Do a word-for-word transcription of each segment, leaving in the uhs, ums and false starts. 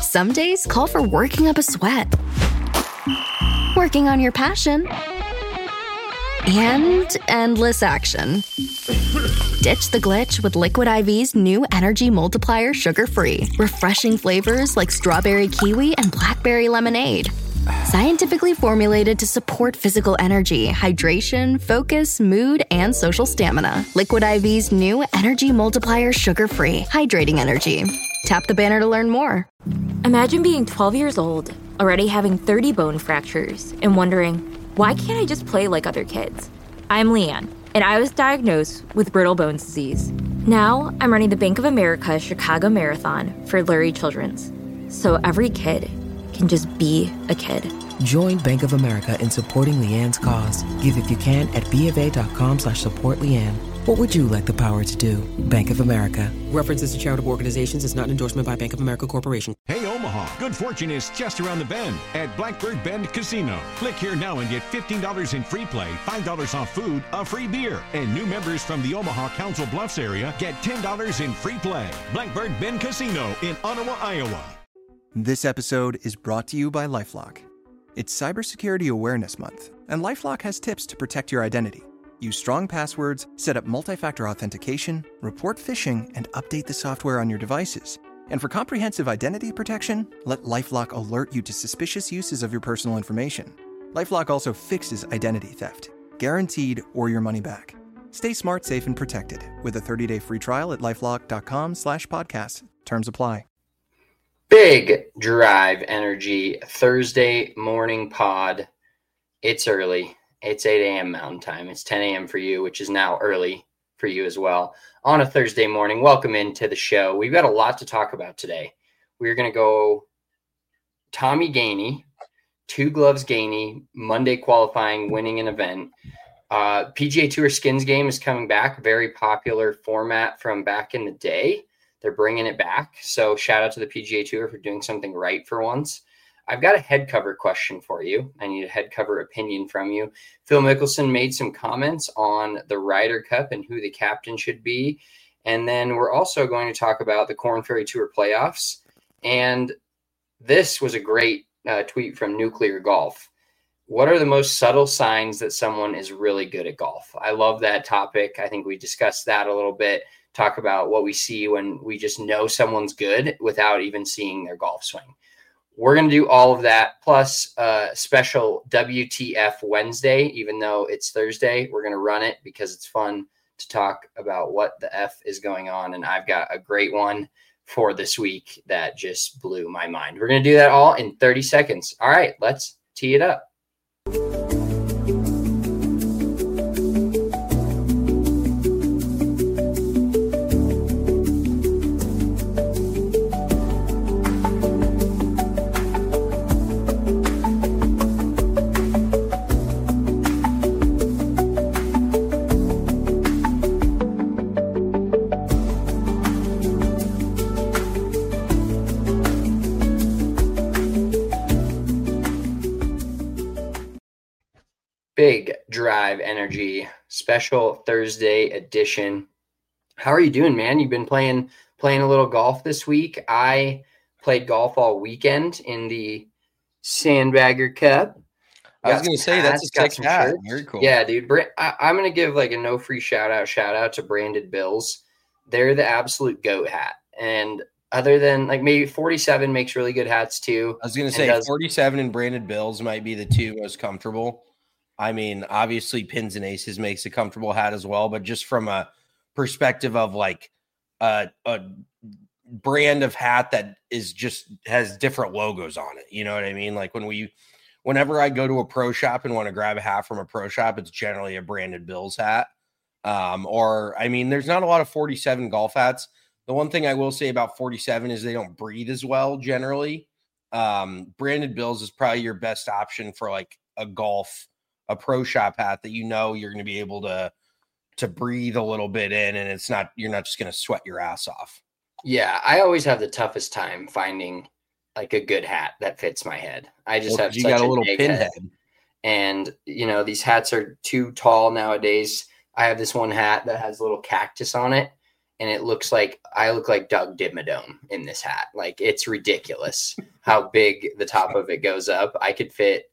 Some days call for working up a sweat, working on your passion, and endless action. Ditch the glitch with Liquid I V's new Energy Multiplier Sugar-Free. Refreshing flavors like strawberry kiwi and blackberry lemonade. Scientifically formulated to support physical energy, hydration, focus, mood, and social stamina. Liquid I V's new Energy Multiplier Sugar-Free. Hydrating energy. Tap the banner to learn more. Imagine being twelve years old, already having thirty bone fractures, and wondering, why can't I just play like other kids? I'm Leanne, and I was diagnosed with brittle bones disease. Now, I'm running the Bank of America Chicago Marathon for Lurie Children's, so every kid can just be a kid. Join Bank of America in supporting Leanne's cause. Give if you can at BofA.com slash support Leanne. What would you like the power to do? Bank of America. References to charitable organizations is not an endorsement by Bank of America Corporation. Hey, Omaha, good fortune is just around the bend at Blackbird Bend Casino. Click here now and get fifteen dollars in free play, five dollars off food, a free beer. And new members from the Omaha Council Bluffs area get ten dollars in free play. Blackbird Bend Casino in Ottawa, Iowa. This episode is brought to you by LifeLock. It's Cybersecurity Awareness Month, and LifeLock has tips to protect your identity. Use strong passwords, set up multi-factor authentication, report phishing, and update the software on your devices. And for comprehensive identity protection, let LifeLock alert you to suspicious uses of your personal information. LifeLock also fixes identity theft, guaranteed or your money back. Stay smart, safe, and protected with a thirty-day free trial at LifeLock.com slash podcast. Terms apply. Big Drive Energy Thursday morning pod. It's early. It's eight a.m. Mountain Time. It's ten a.m. for you, which is now early for you as well. On a Thursday morning, welcome into the show. We've got a lot to talk about today. We're going to go Tommy Gainey, two gloves Gainey, Monday qualifying, winning an event. Uh, P G A Tour Skins Game is coming back. Very popular format from back in the day. They're bringing it back. So shout out to the P G A Tour for doing something right for once. I've got a head cover question for you. I need a head cover opinion from you. Phil Mickelson made some comments on the Ryder Cup and who the captain should be. And then we're also going to talk about the Korn Ferry Tour playoffs. And this was a great uh, tweet from Nuclear Golf. What are the most subtle signs that someone is really good at golf? I love that topic. I think we discussed that a little bit. Talk about what we see when we just know someone's good without even seeing their golf swing. We're going to do all of that, plus a special W T F Wednesday, even though it's Thursday. We're going to run it because it's fun to talk about what the F is going on, and I've got a great one for this week that just blew my mind. We're going to do that all in thirty seconds. All right, let's tee it up. Big Drive Energy special Thursday edition. How are you doing, man? You've been playing playing a little golf this week. I played golf all weekend in the Sandbagger Cup. I was going to say, that's a sick hat. Very cool. Yeah, dude. I, I'm going to give like a no free shout out, shout out to Branded Bills. They're the absolute GOAT hat. And other than like maybe forty-seven makes really good hats too. I was going to say does, forty-seven and Branded Bills might be the two most comfortable. I mean, obviously Pins and Aces makes a comfortable hat as well, but just from a perspective of like a, a brand of hat that is just has different logos on it. You know what I mean? Like when we, whenever I go to a pro shop and want to grab a hat from a pro shop, it's generally a Branded Bills hat. Um, or, I mean, there's not a lot of forty-seven golf hats. The one thing I will say about forty-seven is they don't breathe as well generally. Um, Branded Bills is probably your best option for like a golf a pro shop hat that you know you're going to be able to to breathe a little bit in, and it's not you're not just going to sweat your ass off. Yeah, I always have the toughest time finding like a good hat that fits my head. I just well, have you such got a, a little pinhead, head. And you know these hats are too tall nowadays. I have this one hat that has a little cactus on it, and it looks like I look like Doug Dimmadome in this hat. Like, it's ridiculous how big the top of it goes up. I could fit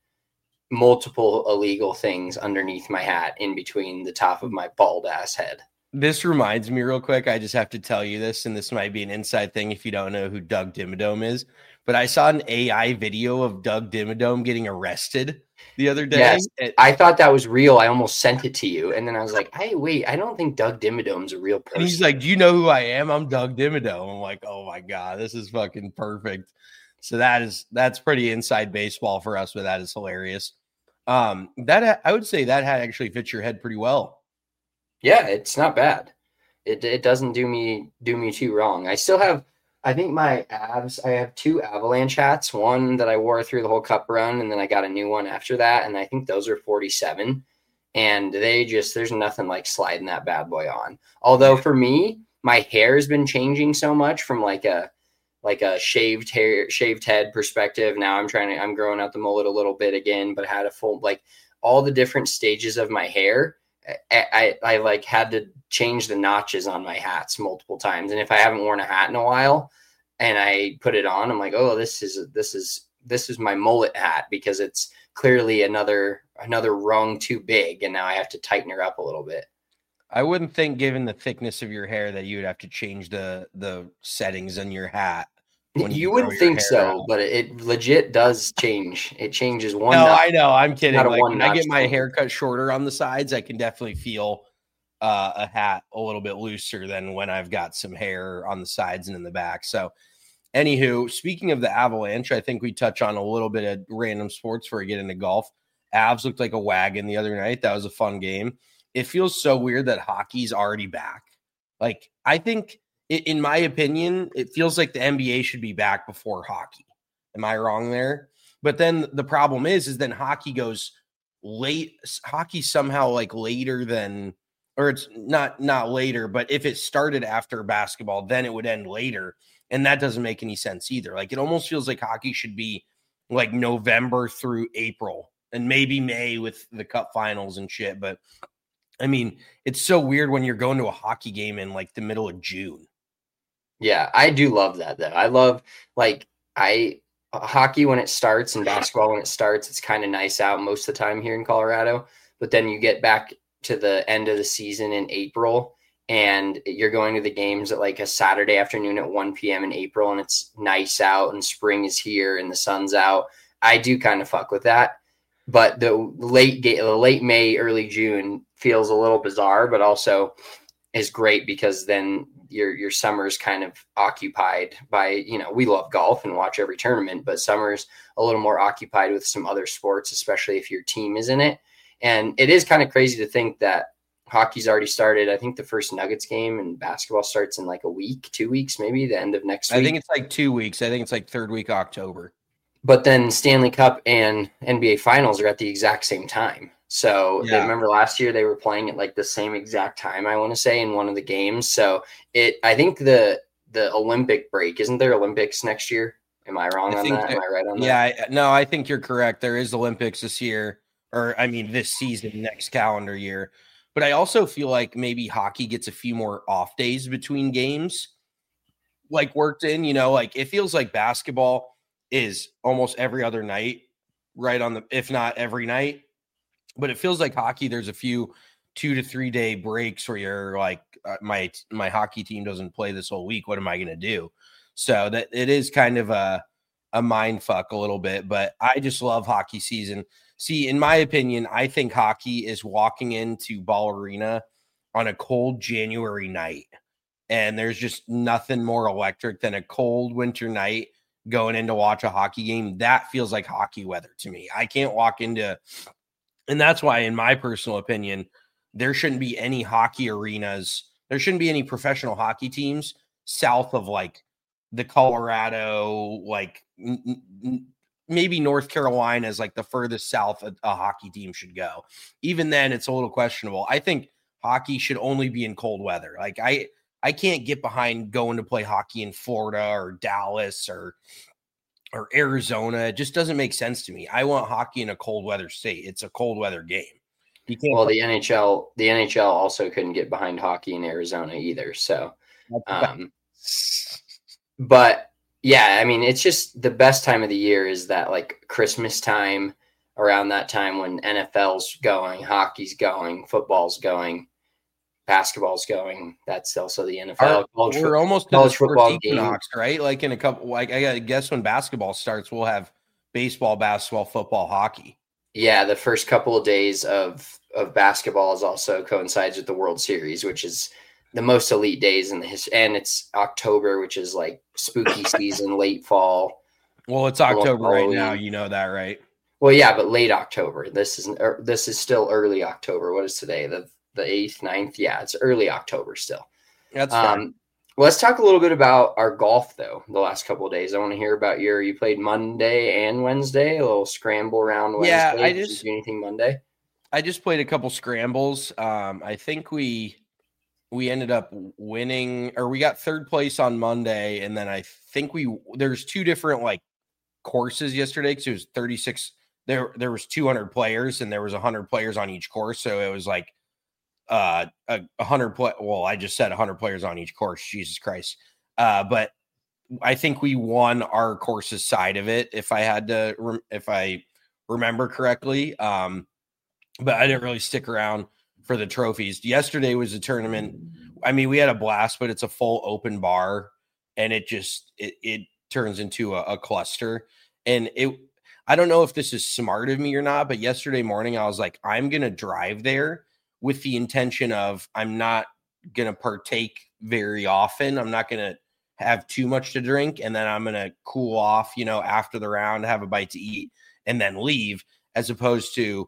multiple illegal things underneath my hat in between the top of my bald ass head. This reminds me real quick. I just have to tell you this, and this might be an inside thing if you don't know who Doug Dimmadome is, but I saw an A I video of Doug Dimmadome getting arrested the other day. Yes, it, I thought that was real. I almost sent it to you. And then I was like, hey, wait, I don't think Doug Dimmadome's a real person. And he's like, do you know who I am? I'm Doug Dimmadome. I'm like, oh my God, this is fucking perfect. So that is, that's pretty inside baseball for us, but that is hilarious. Um, that I would say that hat actually fits your head pretty well. Yeah, it's not bad. It it doesn't do me do me too wrong. I still have, I think my abs, I have two Avalanche hats, one that I wore through the whole cup run, and then I got a new one after that, and I think those are forty-seven, and they just, there's nothing like sliding that bad boy on. Although for me, my hair has been changing so much from like a like a shaved hair, shaved head perspective. Now I'm trying to, I'm growing out the mullet a little bit again, but had a full, like all the different stages of my hair. I, I, I like had to change the notches on my hats multiple times. And if I haven't worn a hat in a while and I put it on, I'm like, oh, this is, this is, this is my mullet hat, because it's clearly another, another rung too big. And now I have to tighten her up a little bit. I wouldn't think, given the thickness of your hair, that you would have to change the, the settings on your hat. You, you wouldn't think so, out. But it legit does change. It changes one. No, notch, I know. I'm kidding. Like, when I get my change. hair cut shorter on the sides, I can definitely feel uh, a hat a little bit looser than when I've got some hair on the sides and in the back. So, anywho, speaking of the Avalanche, I think we touch on a little bit of random sports before we get into golf. Avs looked like a wagon the other night. That was a fun game. It feels so weird that hockey's already back. Like, I think, in my opinion, it feels like the N B A should be back before hockey. Am I wrong there? But then the problem is, is then hockey goes late. Hockey somehow like later than, or it's not, not later, but if it started after basketball, then it would end later. And that doesn't make any sense either. Like, it almost feels like hockey should be like November through April and maybe May with the cup finals and shit. But I mean, it's so weird when you're going to a hockey game in like the middle of June. Yeah, I do love that though. I love like I hockey when it starts and basketball when it starts. It's kind of nice out most of the time here in Colorado. But then you get back to the end of the season in April, and you're going to the games at like a Saturday afternoon at one p.m. in April, and it's nice out and spring is here and the sun's out. I do kind of fuck with that. But the late the late May, early June feels a little bizarre, but also is great because then your your summer's kind of occupied by, you know, we love golf and watch every tournament, but summer's a little more occupied with some other sports, especially if your team is in it. And it is kind of crazy to think that hockey's already started. I think the first Nuggets game, and basketball starts in like a week, two weeks, maybe the end of next week. I think it's like two weeks. I think it's like third week October. But then Stanley Cup and N B A Finals are at the exact same time. So yeah. They remember last year they were playing at like the same exact time, I want to say, in one of the games. So it, I think the the Olympic break, isn't there Olympics next year? Am I wrong I on that? Am I right on that? Yeah, I, no, I think you're correct. There is Olympics this year, or I mean this season, next calendar year. But I also feel like maybe hockey gets a few more off days between games, like worked in. You know, like it feels like basketball is almost every other night, right on the, if not every night. But it feels like hockey, there's a few two to three day breaks where you're like, uh, my my hockey team doesn't play this whole week. What am I going to do? So that it is kind of a, a mind fuck a little bit, but I just love hockey season. See, in my opinion, I think hockey is walking into Ball Arena on a cold January night. And there's just nothing more electric than a cold winter night going in to watch a hockey game. That feels like hockey weather to me. I can't walk into, and that's why, in my personal opinion, there shouldn't be any hockey arenas. There shouldn't be any professional hockey teams south of like the Colorado, like n- n- maybe North Carolina is like the furthest south a, a hockey team should go. Even then, it's a little questionable. I think hockey should only be in cold weather. Like I, I can't get behind going to play hockey in Florida or Dallas or or Arizona. It just doesn't make sense to me. I want hockey in a cold weather state. It's a cold weather game. You can't well, the N H L, the N H L also couldn't get behind hockey in Arizona either. So Um, but yeah, I mean, it's just the best time of the year is that like Christmas time, around that time when N F L's going, hockey's going, football's going, basketball's going. That's also the N F L. Our, college we're fo- almost to college the football sports equinox, right? Like in a couple, like I guess when basketball starts, we'll have baseball, basketball, football, hockey. Yeah, the first couple of days of of basketball is also coincides with the World Series, which is the most elite days in the history. And it's October, which is like spooky season, late fall. Well, it's October right now. You know that, right? Well, yeah, but late October. This is er, this is still early October. What is today? The the eighth, ninth? Yeah, it's early October still. That's um, fine. Let's talk a little bit about our golf, though, the last couple of days. I want to hear about your – you played Monday and Wednesday, a little scramble round Wednesday. Yeah, I Did you just do anything Monday? I just played a couple scrambles. Um, I think we we ended up winning – or we got third place on Monday, and then I think we – there's two different, like, courses yesterday because it was thirty-six – there there was two hundred players, and there was one hundred players on each course, so it was like – uh a, a hundred play well I just said a hundred players on each course, Jesus Christ. Uh but I think we won our course's side of it, if I had to re- if I remember correctly. Um but I didn't really stick around for the trophies. Yesterday was a tournament. I mean, we had a blast, but it's a full open bar, and it just it, it turns into a, a cluster. And it I don't know if this is smart of me or not, but yesterday morning I was like, I'm gonna drive there with the intention of I'm not going to partake very often. I'm not going to have too much to drink, and then I'm going to cool off, you know, after the round, have a bite to eat, and then leave, as opposed to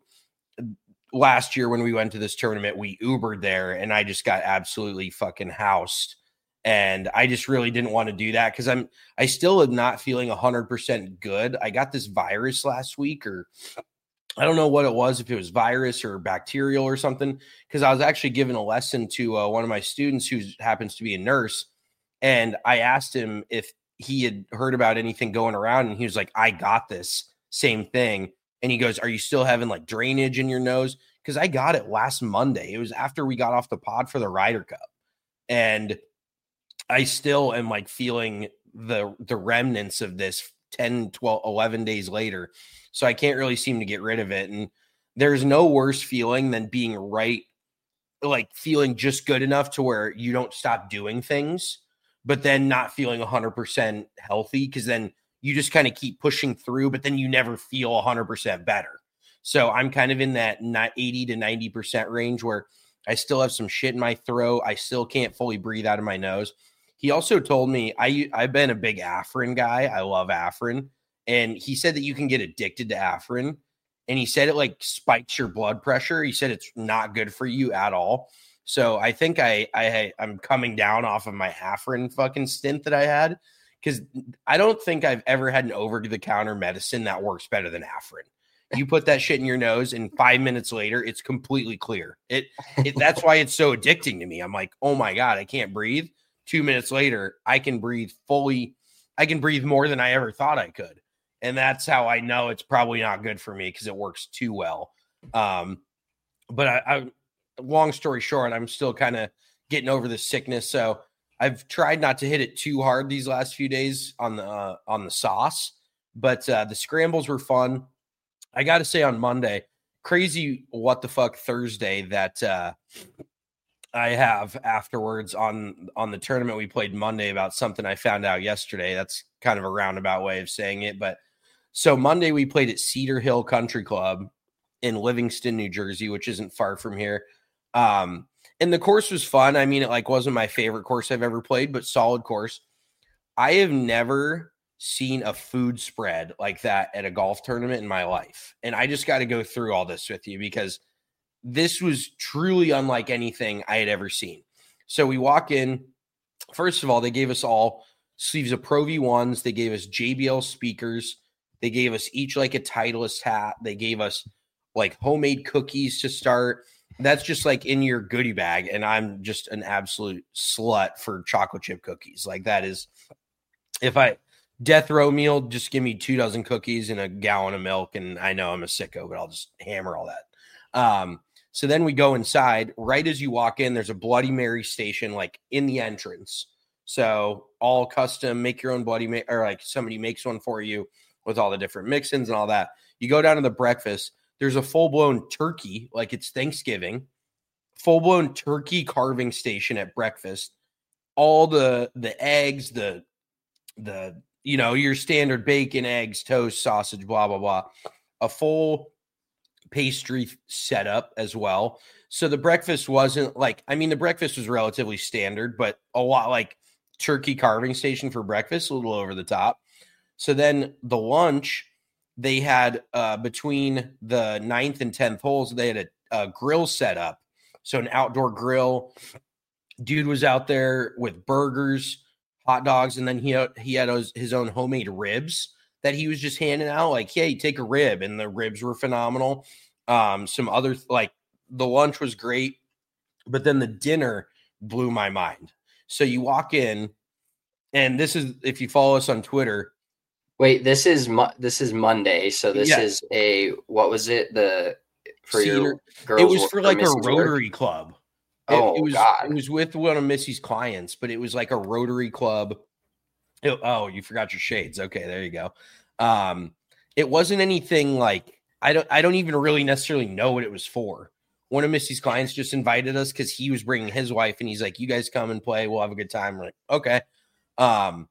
last year when we went to this tournament, we Ubered there, and I just got absolutely fucking housed. And I just really didn't want to do that because I'm I still am not feeling one hundred percent good. I got this virus last week, or I don't know what it was, if it was virus or bacterial or something, because I was actually giving a lesson to uh, one of my students who happens to be a nurse. And I asked him if he had heard about anything going around. And he was like, I got this same thing. And he goes, are you still having like drainage in your nose? Because I got it last Monday. It was after we got off the pod for the Ryder Cup. And I still am like feeling the the remnants of this ten, twelve, eleven days later. So I can't really seem to get rid of it. And there's no worse feeling than being right, like feeling just good enough to where you don't stop doing things, but then not feeling one hundred percent healthy, because then you just kind of keep pushing through, but then you never feel one hundred percent better. So I'm kind of in that eighty to ninety percent range where I still have some shit in my throat. I still can't fully breathe out of my nose. He also told me, I, I've been a big Afrin guy. I love Afrin. And he said that you can get addicted to Afrin. And he said it like spikes your blood pressure. He said it's not good for you at all. So I think I, I, I'm coming down off of my Afrin fucking stint that I had, because I don't think I've ever had an over-the-counter medicine that works better than Afrin. You put that shit in your nose, and five minutes later, it's completely clear. It, it that's why it's so addicting to me. I'm like, oh my God, I can't breathe. Two minutes later, I can breathe fully. I can breathe more than I ever thought I could. And that's how I know it's probably not good for me, because it works too well. Um, but I, I, long story short, I'm still kind of getting over the sickness. So I've tried not to hit it too hard these last few days on the uh, on the sauce. But uh, the scrambles were fun. I got to say, on Monday, crazy what the fuck Thursday that uh, I have afterwards on on the tournament we played Monday about something I found out yesterday. That's kind of a roundabout way of saying it, but. So Monday we played at Cedar Hill Country Club in Livingston, New Jersey, which isn't far from here. Um, and the course was fun. I mean, it like wasn't my favorite course I've ever played, but solid course. I have never seen a food spread like that at a golf tournament in my life. And I just got to go through all this with you, because this was truly unlike anything I had ever seen. So we walk in. First of all, they gave us all sleeves of Pro V ones. They gave us J B L speakers. They gave us each like a Titleist hat. They gave us like homemade cookies to start. That's just like in your goodie bag. And I'm just an absolute slut for chocolate chip cookies. Like that is, if I death row meal, just give me two dozen cookies and a gallon of milk. And I know I'm a sicko, but I'll just hammer all that. Um, so then we go inside. Right as you walk in, there's a Bloody Mary station like in the entrance. So all custom, make your own Bloody Mary, or like somebody makes one for you with all the different mix-ins and all that. You go down to the breakfast, there's a full-blown turkey, like it's Thanksgiving, full-blown turkey carving station at breakfast. All the the eggs, the the you know, your standard bacon, eggs, toast, sausage, blah, blah, blah. A full pastry setup as well. So the breakfast wasn't like, I mean, the breakfast was relatively standard, but a lot like turkey carving station for breakfast, a little over the top. So then the lunch, they had uh, between the ninth and tenth holes, they had a, a grill set up. So an outdoor grill. Dude was out there with burgers, hot dogs, and then he had, he had his, his own homemade ribs that he was just handing out. Like, hey, take a rib, and the ribs were phenomenal. Um, some other like the lunch was great, but then the dinner blew my mind. So you walk in, and this is if you follow us on Twitter. Wait, this is mo- this is Monday, so this Yeah. is a what was it the for Cedar, your girls? it was for or like a Missus Work? Rotary club. It, Oh, it was God. it was with one of Missy's clients, but it was like a Rotary club. It- oh, you forgot your shades. Okay, there you go. Um, it wasn't anything like I don't I don't even really necessarily know what it was for. One of Missy's clients just invited us because he was bringing his wife, and he's like, "You guys come and play. We'll have a good time." We're like, okay. Um,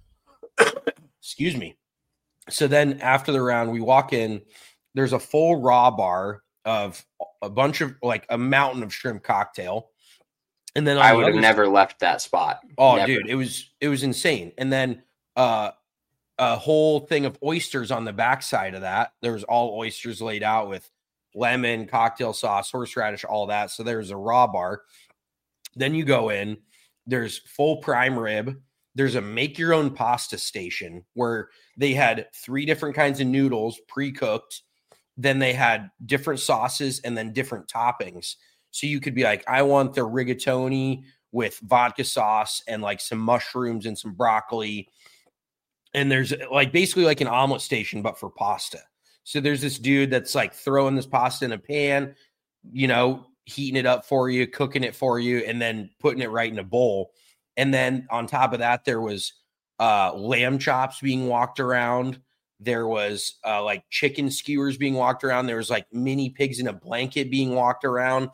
excuse me. So then after the round, we walk in. There's a full raw bar of a bunch of like a mountain of shrimp cocktail. And then on I the would have other never left that spot. Oh, Never. dude, it was it was insane. And then uh, a whole thing of oysters on the backside of that. There was all oysters laid out with lemon, cocktail sauce, horseradish, all that. So there's a raw bar. Then you go in. There's full prime rib. There's a make your own pasta station where they had three different kinds of noodles pre-cooked. Then they had different sauces and then different toppings. So you could be like, I want the rigatoni with vodka sauce and like some mushrooms and some broccoli. And there's like basically like an omelet station, but for pasta. So there's this dude that's like throwing this pasta in a pan, you know, heating it up for you, cooking it for you, and then putting it right in a bowl. And then on top of that, there was uh, lamb chops being walked around. There was uh, like chicken skewers being walked around. There was like mini pigs in a blanket being walked around.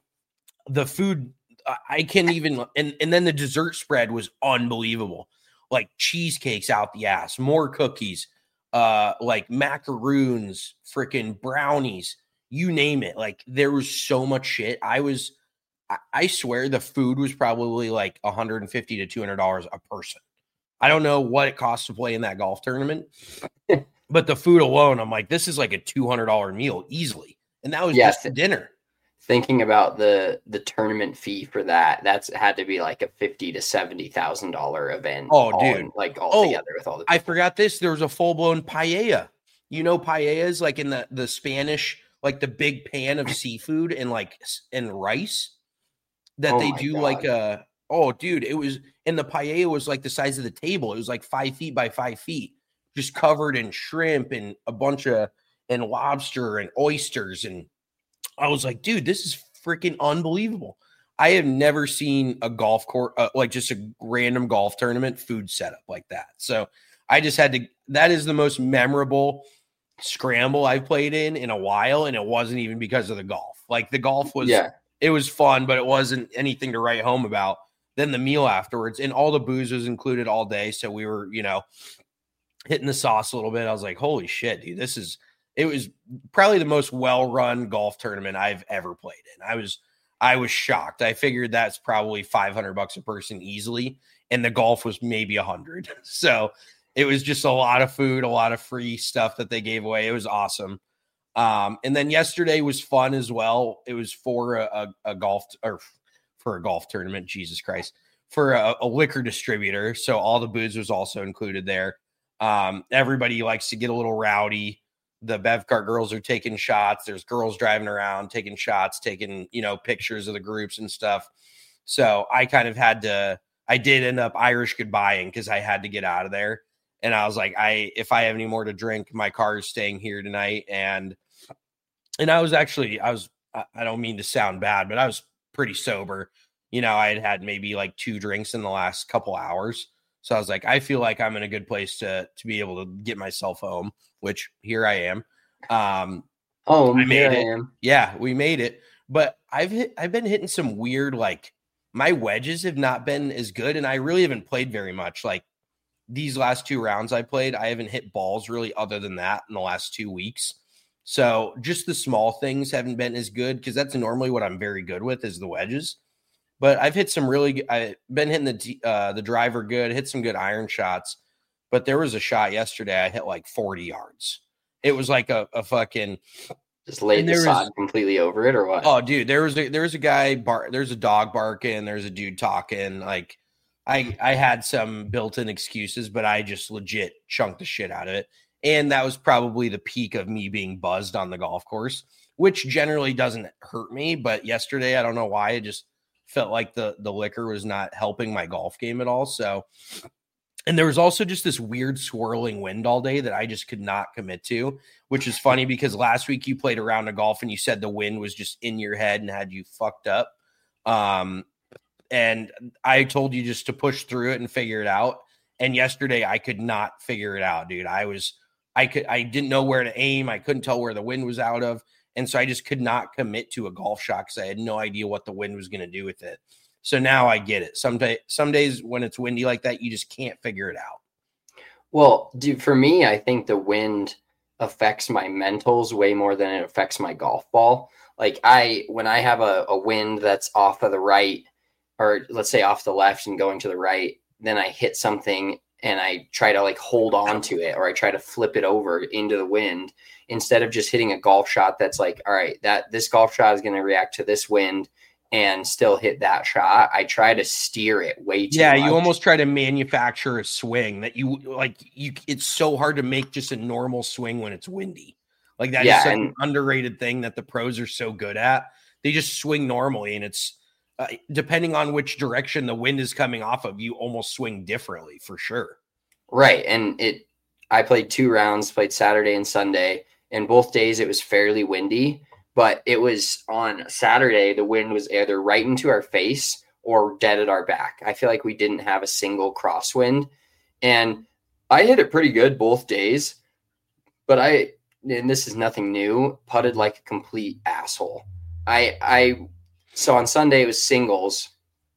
The food, I can't even, and, and then the dessert spread was unbelievable. Like cheesecakes out the ass, more cookies, uh, like macaroons, freaking brownies, you name it. Like there was so much shit. I was, I, I swear the food was probably like one hundred fifty to two hundred dollars a person. I don't know what it costs to play in that golf tournament, but the food alone, I'm like, this is like a two hundred dollars meal easily. And that was Yes. just the dinner. Thinking about the the tournament fee for that, that's had to be like a fifty to seventy thousand dollar event. Oh, all dude. in- like all Oh, together with all the. I forgot this. There was a full blown paella. You know, paellas like in the, the Spanish, like the big pan of seafood and like s- and rice that Oh they my do God. like a. Oh, dude, it was, and the paella was like the size of the table. It was like five feet by five feet, just covered in shrimp and a bunch of and lobster and oysters. And I was like, dude, this is freaking unbelievable. I have never seen a golf course, uh, like just a random golf tournament food setup like that. So I just had to, that is the most memorable scramble I've played in in a while. And it wasn't even because of the golf. Like the golf was, Yeah. it was fun, but it wasn't anything to write home about. Then the meal afterwards, and all the booze was included all day. So we were, you know, hitting the sauce a little bit. I was like, holy shit, dude, this is, it was probably the most well-run golf tournament I've ever played in. I was, I was shocked. I figured that's probably five hundred bucks a person easily. And the golf was maybe a hundred. So it was just a lot of food, a lot of free stuff that they gave away. It was awesome. Um, and then yesterday was fun as well. It was for a, a, a golf or for a golf tournament, Jesus Christ, for a, a liquor distributor. So all the booze was also included there. Um, everybody likes to get a little rowdy. The Bevcart girls are taking shots. There's girls driving around, taking shots, taking, you know, pictures of the groups and stuff. So I kind of had to, I did end up Irish goodbying because I had to get out of there. And I was like, I, if I have any more to drink, my car is staying here tonight. And, and I was actually, I was, I I don't mean to sound bad, but I was pretty sober. you know, I had had maybe like two drinks in the last couple hours. So I was like, I feel like I'm in a good place to to be able to get myself home, which here I am. Um, home, I made here it. I am. Yeah, we made it. But I've hit, I've been hitting some weird, like my wedges have not been as good, and I really haven't played very much. Like these last two rounds I played, I haven't hit balls really other than that in the last two weeks. So just the small things haven't been as good because that's normally what I'm very good with is the wedges. But I've hit some really – I've been hitting the uh, the driver good, hit some good iron shots. But there was a shot yesterday I hit like forty yards. It was like a, a fucking – Just laid the sod completely over it or what? Oh, dude, there was a, there was a guy bar, there's a dog barking, there's a dude talking. Like I I had some built-in excuses, but I just legit chunked the shit out of it. And that was probably the peak of me being buzzed on the golf course, which generally doesn't hurt me. But yesterday, I don't know why, it just felt like the the liquor was not helping my golf game at all. So, and there was also just this weird swirling wind all day that I just could not commit to, which is funny because last week you played a round of golf and you said the wind was just in your head and had you fucked up. Um, and I told you just to push through it and figure it out. And yesterday I could not figure it out, dude. I was, I could, I didn't know where to aim. I couldn't tell where the wind was out of. And so I just could not commit to a golf shot because I had no idea what the wind was going to do with it. So now I get it. Some day, some days when it's windy like that, you just can't figure it out. Well, dude, for me, I think the wind affects my mentals way more than it affects my golf ball. Like I, when I have a, a wind that's off of the right, or let's say off the left and going to the right, then I hit something and I try to like hold on to it, or I try to flip it over into the wind instead of just hitting a golf shot that's like, all right, that this golf shot is going to react to this wind and still hit that shot. I try to steer it way too yeah, much. You almost try to manufacture a swing that you like. You it's so hard to make just a normal swing when it's windy. Like that yeah, is such and, an underrated thing that the pros are so good at. They just swing normally, and it's uh, depending on which direction the wind is coming off of, you almost swing differently for sure. Right, and it. I played two rounds, played Saturday and Sunday, and both days it was fairly windy. But it was on Saturday, the wind was either right into our face or dead at our back. I feel like we didn't have a single crosswind. And I hit it pretty good both days. But I, and this is nothing new, putted like a complete asshole. I, I, so on Sunday it was singles,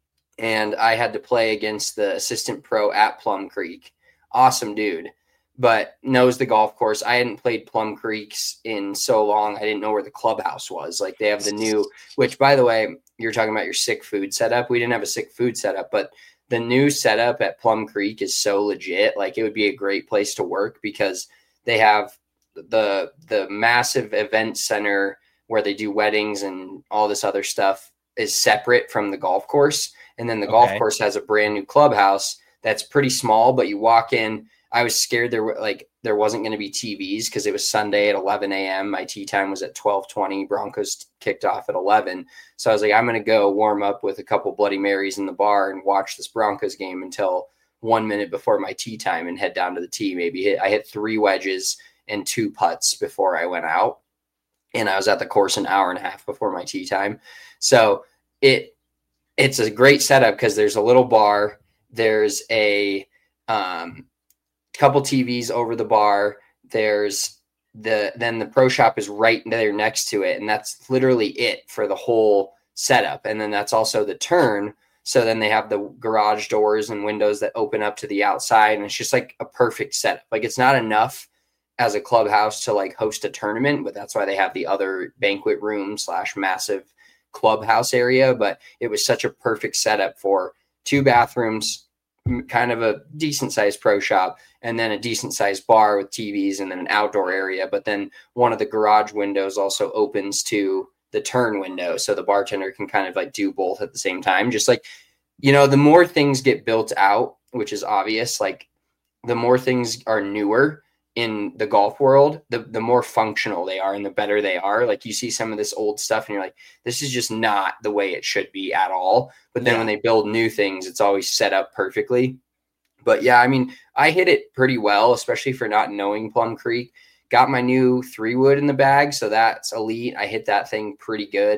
and I had to play against the assistant pro at Plum Creek. Awesome dude. But knows the golf course. I hadn't played Plum Creeks in so long. I didn't know where the clubhouse was. Like they have the new, which by the way, you're talking about your sick food setup. We didn't have a sick food setup, but the new setup at Plum Creek is so legit. Like it would be a great place to work because they have the, the massive event center where they do weddings and all this other stuff is separate from the golf course. And then the okay. golf course has a brand new clubhouse that's pretty small, but you walk in. I was scared there were like there wasn't going to be T Vs because it was Sunday at eleven a.m. My tee time was at twelve twenty. Broncos kicked off at eleven. So I was like, I'm going to go warm up with a couple Bloody Marys in the bar and watch this Broncos game until one minute before my tee time and head down to the tee. Maybe hit, I hit three wedges and two putts before I went out. And I was at the course an hour and a half before my tee time. So it it's a great setup because there's a little bar. There's a um, couple T Vs over the bar. There's the, then the pro shop is right there next to it. And that's literally it for the whole setup. And then that's also the turn. So then they have the garage doors and windows that open up to the outside. And it's just like a perfect setup. Like it's not enough as a clubhouse to like host a tournament, but that's why they have the other banquet room slash massive clubhouse area. But it was such a perfect setup for two bathrooms, kind of a decent sized pro shop, and then a decent sized bar with T Vs and then an outdoor area. But then one of the garage windows also opens to the turn window. So the bartender can kind of like do both at the same time. Just like, you know, the more things get built out, which is obvious, like the more things are newer in the golf world, the, the more functional they are and the better they are. Like you see some of this old stuff and you're like, this is just not the way it should be at all. But then yeah. when they build new things, it's always set up perfectly. But yeah, I mean, I hit it pretty well, especially for not knowing Plum Creek. Got my new three wood in the bag. So that's elite. I hit that thing pretty good.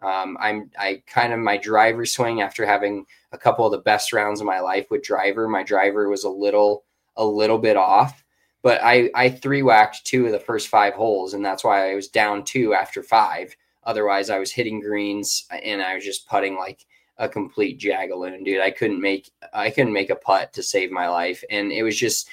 Um, I'm I kind of my driver swing after having a couple of the best rounds of my life with driver. My driver was a little a little bit off, but I I three whacked two of the first five holes, and that's why I was down two after five. Otherwise, I was hitting greens and I was just putting like a complete jagaloon, dude. I couldn't make I couldn't make a putt to save my life, and it was just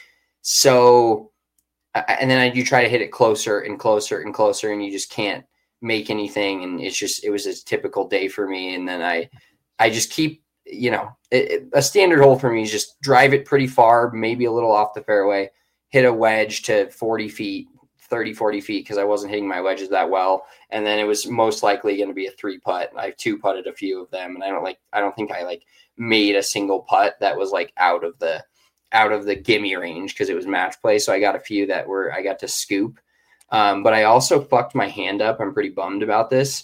so. And then I do try to hit it closer and closer and closer, and you just can't make anything. And it's just, it was a typical day for me. And then I, I just keep, you know, it, it, a standard hole for me is just drive it pretty far, maybe a little off the fairway, hit a wedge to forty feet, thirty, forty feet, because I wasn't hitting my wedges that well. And then it was most likely going to be a three putt. I two putted a few of them, and I don't like, I don't think I like made a single putt that was like out of the, out of the gimme range, because it was match play. So I got a few that were, I got to scoop. Um, but I also fucked my hand up. I'm pretty bummed about this.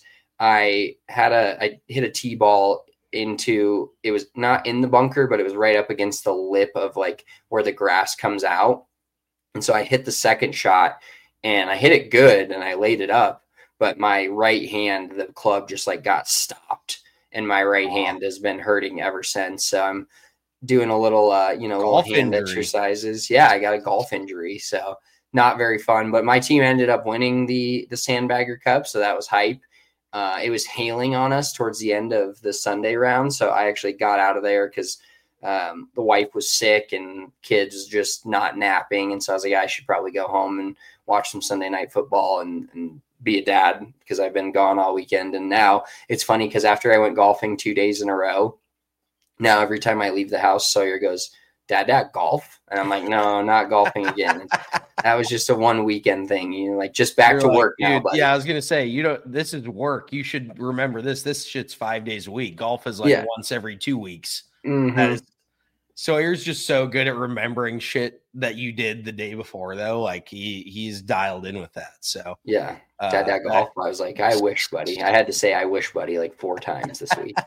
I had a, I hit a tee ball into, it was not in the bunker, but it was right up against the lip of like where the grass comes out. And so I hit the second shot and I hit it good and I laid it up, but my right hand, the club just like got stopped, and my right hand has been hurting ever since. So I'm doing a little, uh, you know, golf little hand injury. exercises. Yeah, I got a golf injury, so not very fun. But my team ended up winning the the Sandbagger Cup, so that was hype. Uh, it was hailing on us towards the end of the Sunday round, so I actually got out of there because um, the wife was sick and kids just not napping, and so I was like, I should probably go home and watch some Sunday night football and, and be a dad, because I've been gone all weekend. And now it's funny because after I went golfing two days in a row, now every time I leave the house, Sawyer goes, Dad, Dad, golf? And I'm like, no, not golfing again. That was just a one weekend thing, you know, like just back You're to like, work now. Buddy. Yeah, I was gonna say, you know, this is work. You should remember this. This shit's five days a week. Golf is like yeah. once every two weeks. Mm-hmm. That is, Sawyer's just so good at remembering shit that you did the day before, though. Like he he's dialed in with that. So yeah, Dad, Dad, uh, golf. I was like, I wish, buddy. I had to say, I wish, buddy, like four times this week.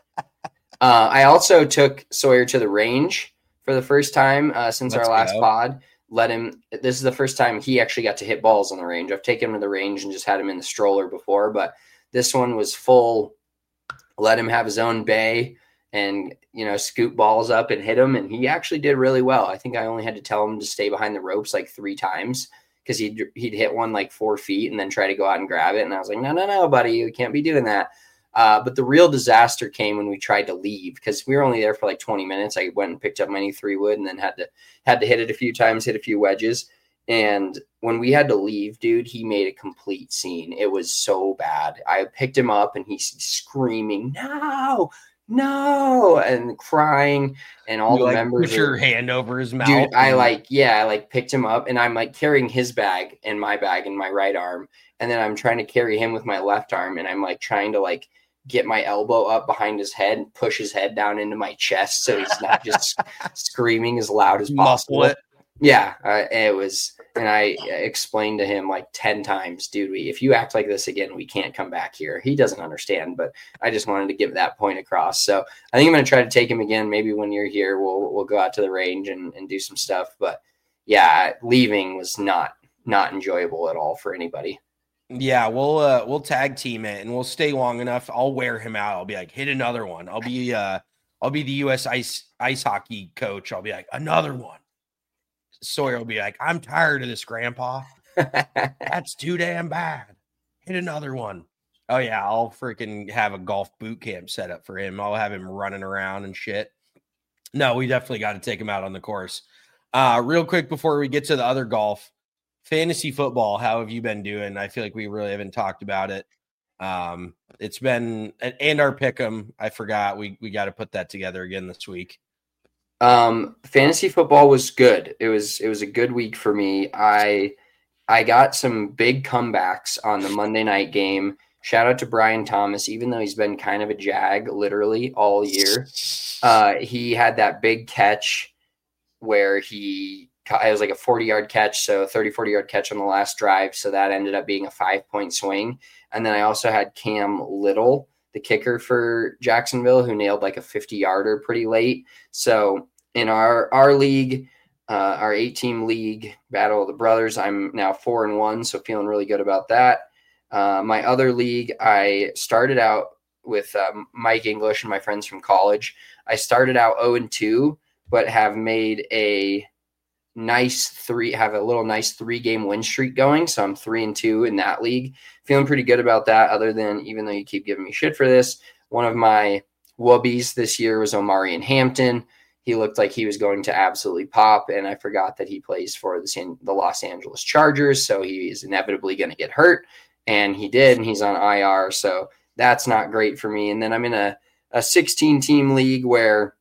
Uh, I also took Sawyer to the range for the first time uh, since Let's our last go. pod. Let him. This is the first time he actually got to hit balls on the range. I've taken him to the range and just had him in the stroller before, but this one was full. Let him have his own bay and, you know, scoop balls up and hit them, and he actually did really well. I think I only had to tell him to stay behind the ropes like three times because he'd he'd hit one like four feet and then try to go out and grab it, and I was like, no, no, no, buddy, you can't be doing that. Uh, but the real disaster came when we tried to leave, because we were only there for like twenty minutes. I went and picked up my new three wood and then had to had to hit it a few times, hit a few wedges. And when we had to leave, dude, he made a complete scene. It was so bad. I picked him up and he's screaming, no, no, and crying. And all you the like members put your are, hand over his mouth. Dude, I like, yeah, I like picked him up and I'm like carrying his bag and my bag in my right arm. And then I'm trying to carry him with my left arm. And I'm like trying to like get my elbow up behind his head and push his head down into my chest so he's not just screaming as loud as possible. Muscle it. Yeah, uh, it was, and I explained to him like ten times, dude, we, if you act like this again, we can't come back here. He doesn't understand, but I just wanted to get that point across. So I think I'm going to try to take him again. Maybe when you're here, we'll we'll go out to the range and, and do some stuff. But yeah, leaving was not not enjoyable at all for anybody. Yeah, we'll uh, we'll tag team it and we'll stay long enough. I'll wear him out. I'll be like, hit another one. I'll be uh, I'll be the U S ice ice hockey coach. I'll be like, another one. Sawyer will be like, I'm tired of this, Grandpa. That's too damn bad. Hit another one. Oh yeah, I'll freaking have a golf boot camp set up for him. I'll have him running around and shit. No, we definitely got to take him out on the course. Uh, real quick before we get to the other golf. Fantasy football, how have you been doing? I feel like we really haven't talked about it. Um, it's been and our pick'em. I forgot we we got to put that together again this week. Um, fantasy football was good. It was it was a good week for me. I I got some big comebacks on the Monday night game. Shout out to Brian Thomas, even though he's been kind of a jag literally all year. Uh, he had that big catch where he. It was like a forty-yard catch, so thirty, forty-yard catch on the last drive, so that ended up being a five-point swing. And then I also had Cam Little, the kicker for Jacksonville, who nailed like a fifty-yarder pretty late. So in our our league, uh, our eight-team league, Battle of the Brothers, I'm now four and one, so feeling really good about that. Uh, my other league, I started out with um, Mike English and my friends from college. I started out oh and two, but have made a nice three, have a little nice three game win streak going. So I'm three and two in that league. Feeling pretty good about that, other than, even though you keep giving me shit for this, one of my wubbies this year was Omarion Hampton. He looked like he was going to absolutely pop, and I forgot that he plays for the San, the Los Angeles Chargers, so he is inevitably going to get hurt, and he did, and he's on I R, so that's not great for me. And then I'm in a, a sixteen-team league where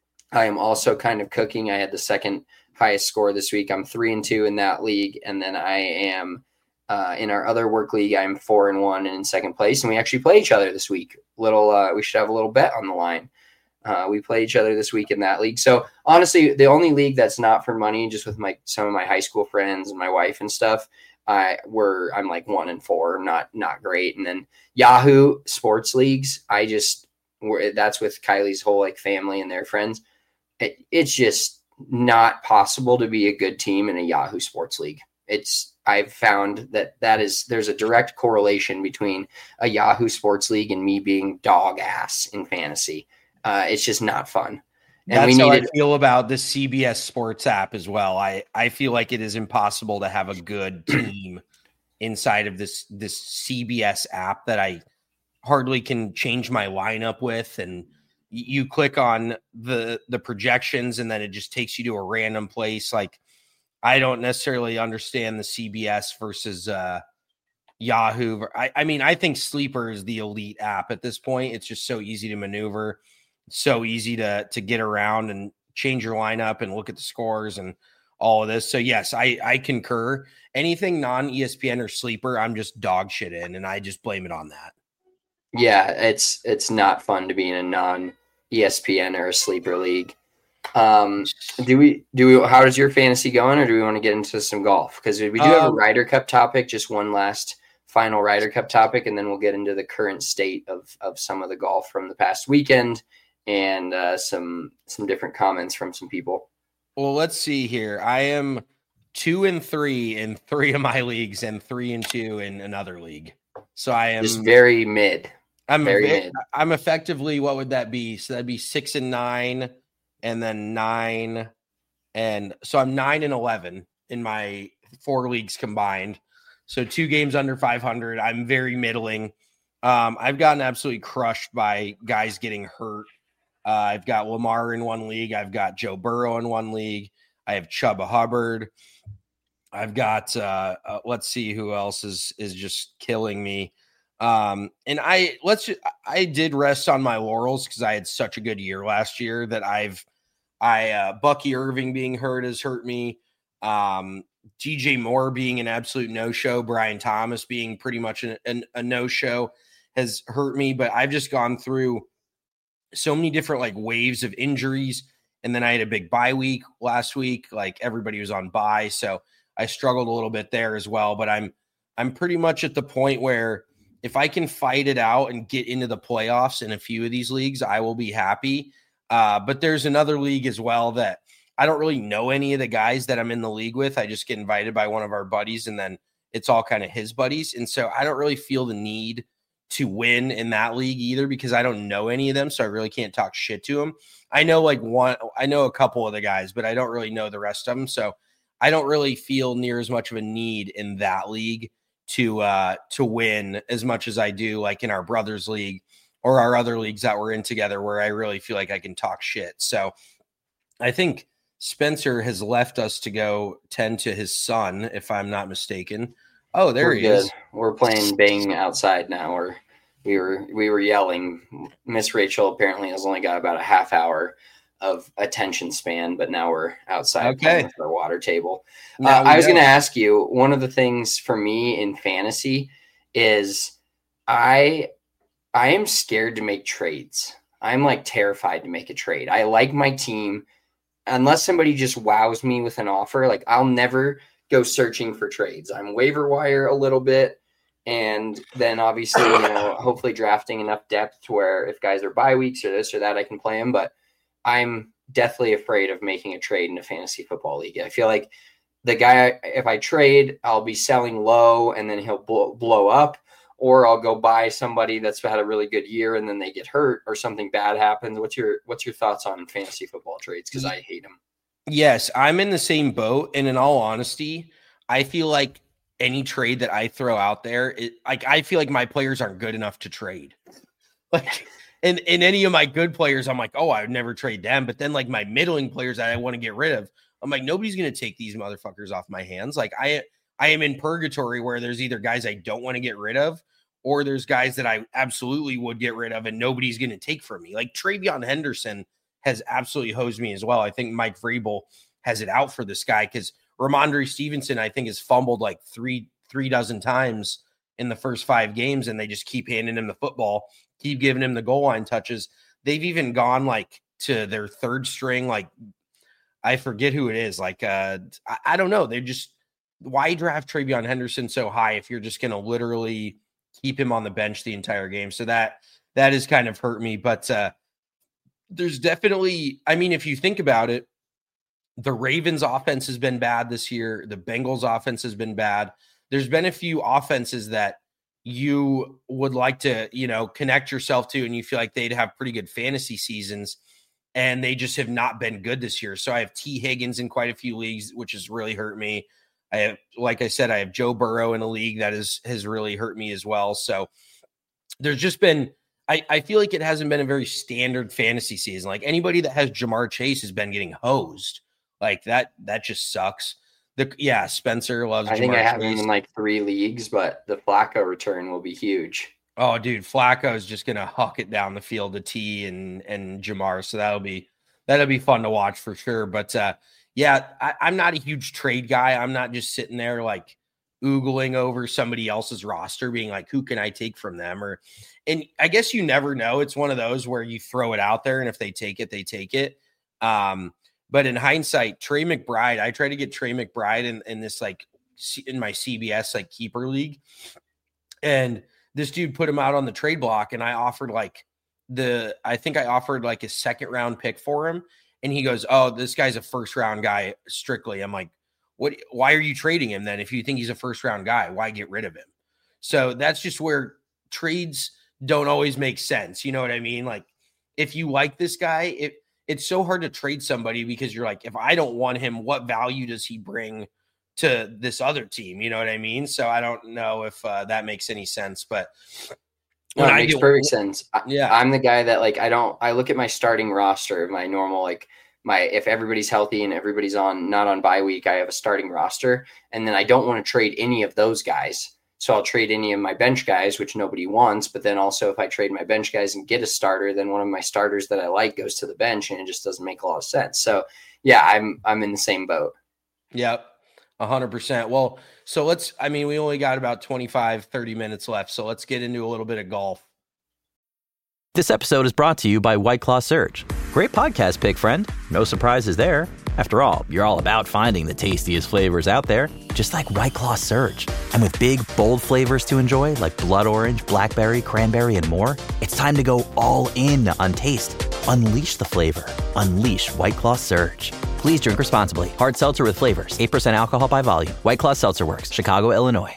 I am also kind of cooking. I had the second highest score this week. I'm three and two in that league, and then I am uh, in our other work league. I'm four and one and in second place, and we actually play each other this week. Little, uh, we should have a little bet on the line. Uh, we play each other this week in that league. So honestly, the only league that's not for money, just with my some of my high school friends and my wife and stuff, I were I'm like one and four, not not great. And then Yahoo Sports Leagues, I just that's with Kylie's whole like family and their friends. It, it's just not possible to be a good team in a Yahoo Sports League. It's I've found that that is there's a direct correlation between a Yahoo Sports League and me being dog ass in fantasy. Uh, it's just not fun. And That's we how needed, I feel about the C B S Sports app as well. I, I feel like it is impossible to have a good team inside of this this C B S app that I hardly can change my lineup with. And you click on the the projections, and then it just takes you to a random place. Like, I don't necessarily understand the C B S versus uh, Yahoo. I, I mean, I think Sleeper is the elite app at this point. It's just so easy to maneuver. So easy to to get around and change your lineup and look at the scores and all of this. So yes, I, I concur. Anything non-E S P N or Sleeper, I'm just dog shit in, and I just blame it on that. Yeah, it's it's not fun to be in a non-E S P N or a Sleeper league. Um, do we do we? How is your fantasy going, or do we want to get into some golf? Because we do have um, a Ryder Cup topic. Just one last final Ryder Cup topic, and then we'll get into the current state of of some of the golf from the past weekend. And uh, some some different comments from some people. Well, let's see here. I am two and three in three of my leagues, and three and two in another league. So I am just very mid. I'm very ve- mid. I'm effectively, what would that be? So that'd be six and nine, and then nine, and so I'm nine and eleven in my four leagues combined. So two games under five hundred. I'm very middling. Um, I've gotten absolutely crushed by guys getting hurt. Uh, I've got Lamar in one league. I've got Joe Burrow in one league. I have Chuba Hubbard. I've got, uh, uh, let's see who else is, is just killing me. Um, and I, let's, just, I did rest on my laurels because I had such a good year last year that I've, I, uh, Bucky Irving being hurt has hurt me. Um, D J Moore being an absolute no-show. Brian Thomas being pretty much an, an, a no-show has hurt me, but I've just gone through so many different like waves of injuries. And then I had a big bye week last week. Like, everybody was on bye. So I struggled a little bit there as well, but I'm, I'm pretty much at the point where if I can fight it out and get into the playoffs in a few of these leagues, I will be happy. Uh, but there's another league as well that I don't really know any of the guys that I'm in the league with. I just get invited by one of our buddies, and then it's all kind of his buddies. And so I don't really feel the need to win in that league either, because I don't know any of them. So I really can't talk shit to them. I know like one, I know a couple of the guys, but I don't really know the rest of them. So I don't really feel near as much of a need in that league to, uh, to win as much as I do like in our brothers league or our other leagues that we're in together, where I really feel like I can talk shit. So I think Spencer has left us to go tend to his son, if I'm not mistaken. Oh, there we're he good. is. We're playing Bang outside now. Or we were we were yelling. Miss Rachel apparently has only got about a half hour of attention span, but now we're outside okay. playing with our water table. Uh, I was going to ask you, one of the things for me in fantasy is I I am scared to make trades. I'm like terrified to make a trade. I like my team. Unless somebody just wows me with an offer, like I'll never go searching for trades. I'm waiver wire a little bit, and then obviously, you know, hopefully drafting enough depth to where if guys are bye weeks or this or that, I can play them. But I'm deathly afraid of making a trade in a fantasy football league. I feel like the guy, if I trade, I'll be selling low and then he'll blow, blow up, or I'll go buy somebody that's had a really good year and then they get hurt or something bad happens. What's your what's your thoughts on fantasy football trades? Because I hate them. Yes, I'm in the same boat. And in all honesty, I feel like any trade that I throw out there, it, like I feel like my players aren't good enough to trade. Like, and in any of my good players, I'm like, oh, I would never trade them. But then like my middling players that I want to get rid of, I'm like, nobody's going to take these motherfuckers off my hands. Like I, I am in purgatory where there's either guys I don't want to get rid of, or there's guys that I absolutely would get rid of and nobody's going to take from me. Like Travion Henderson has absolutely hosed me as well. I think Mike Vrabel has it out for this guy because Ramondre Stevenson, I think, has fumbled like three, three dozen times in the first five games, and they just keep handing him the football, keep giving him the goal line touches. They've even gone like to their third string. Like I forget who it is. Like, uh, I, I don't know. They just, why draft Travion Henderson so high if you're just going to literally keep him on the bench the entire game? So that that has kind of hurt me. But uh, there's definitely, I mean, if you think about it, the Ravens offense has been bad this year. The Bengals offense has been bad. There's been a few offenses that you would like to, you know, connect yourself to, and you feel like they'd have pretty good fantasy seasons, and they just have not been good this year. So I have T. Higgins in quite a few leagues, which has really hurt me. I have, like I said, I have Joe Burrow in a league that is, has really hurt me as well. So there's just been, I, I feel like it hasn't been a very standard fantasy season. Like anybody that has Jamar Chase has been getting hosed. Like that, that just sucks. The yeah, Spencer loves I Jamar think I have Chase. him in like three leagues, but the Flacco return will be huge. Oh, dude, Flacco is just gonna huck it down the field to T and and Jamar. So that'll be that'll be fun to watch for sure. But uh yeah, I, I'm not a huge trade guy. I'm not just sitting there like oogling over somebody else's roster, being like, who can I take from them? Or, and I guess you never know. It's one of those where you throw it out there, and if they take it, they take it. Um, but in hindsight, Trey McBride, I tried to get Trey McBride in, in this like in my C B S like keeper league, and this dude put him out on the trade block, and I offered like the, I think I offered like a second round pick for him. And he goes, oh, this guy's a first round guy strictly. I'm like, what, why are you trading him then? If you think he's a first round guy, why get rid of him? So that's just where trades don't always make sense. You know what I mean? Like if you like this guy, it, it's so hard to trade somebody because you're like, if I don't want him, what value does he bring to this other team? You know what I mean? So I don't know if uh, that makes any sense, but no, it makes get, perfect sense. Yeah. I'm the guy that like, I don't, I look at my starting roster, my normal, like my, if everybody's healthy and everybody's on, not on bye week, I have a starting roster, and then I don't want to trade any of those guys. So I'll trade any of my bench guys, which nobody wants. But then also if I trade my bench guys and get a starter, then one of my starters that I like goes to the bench, and it just doesn't make a lot of sense. So yeah, I'm, I'm in the same boat. Yep. A hundred percent. Well, so let's, I mean, we only got about twenty-five, thirty minutes left. So let's get into a little bit of golf. This episode is brought to you by White Claw Surge. Great podcast pick, friend. No surprises there. After all, you're all about finding the tastiest flavors out there, just like White Claw Surge. And with big, bold flavors to enjoy, like blood orange, blackberry, cranberry, and more, it's time to go all in on taste. Unleash the flavor. Unleash White Claw Surge. Please drink responsibly. Hard seltzer with flavors. eight percent alcohol by volume. White Claw Seltzer Works. Chicago, Illinois.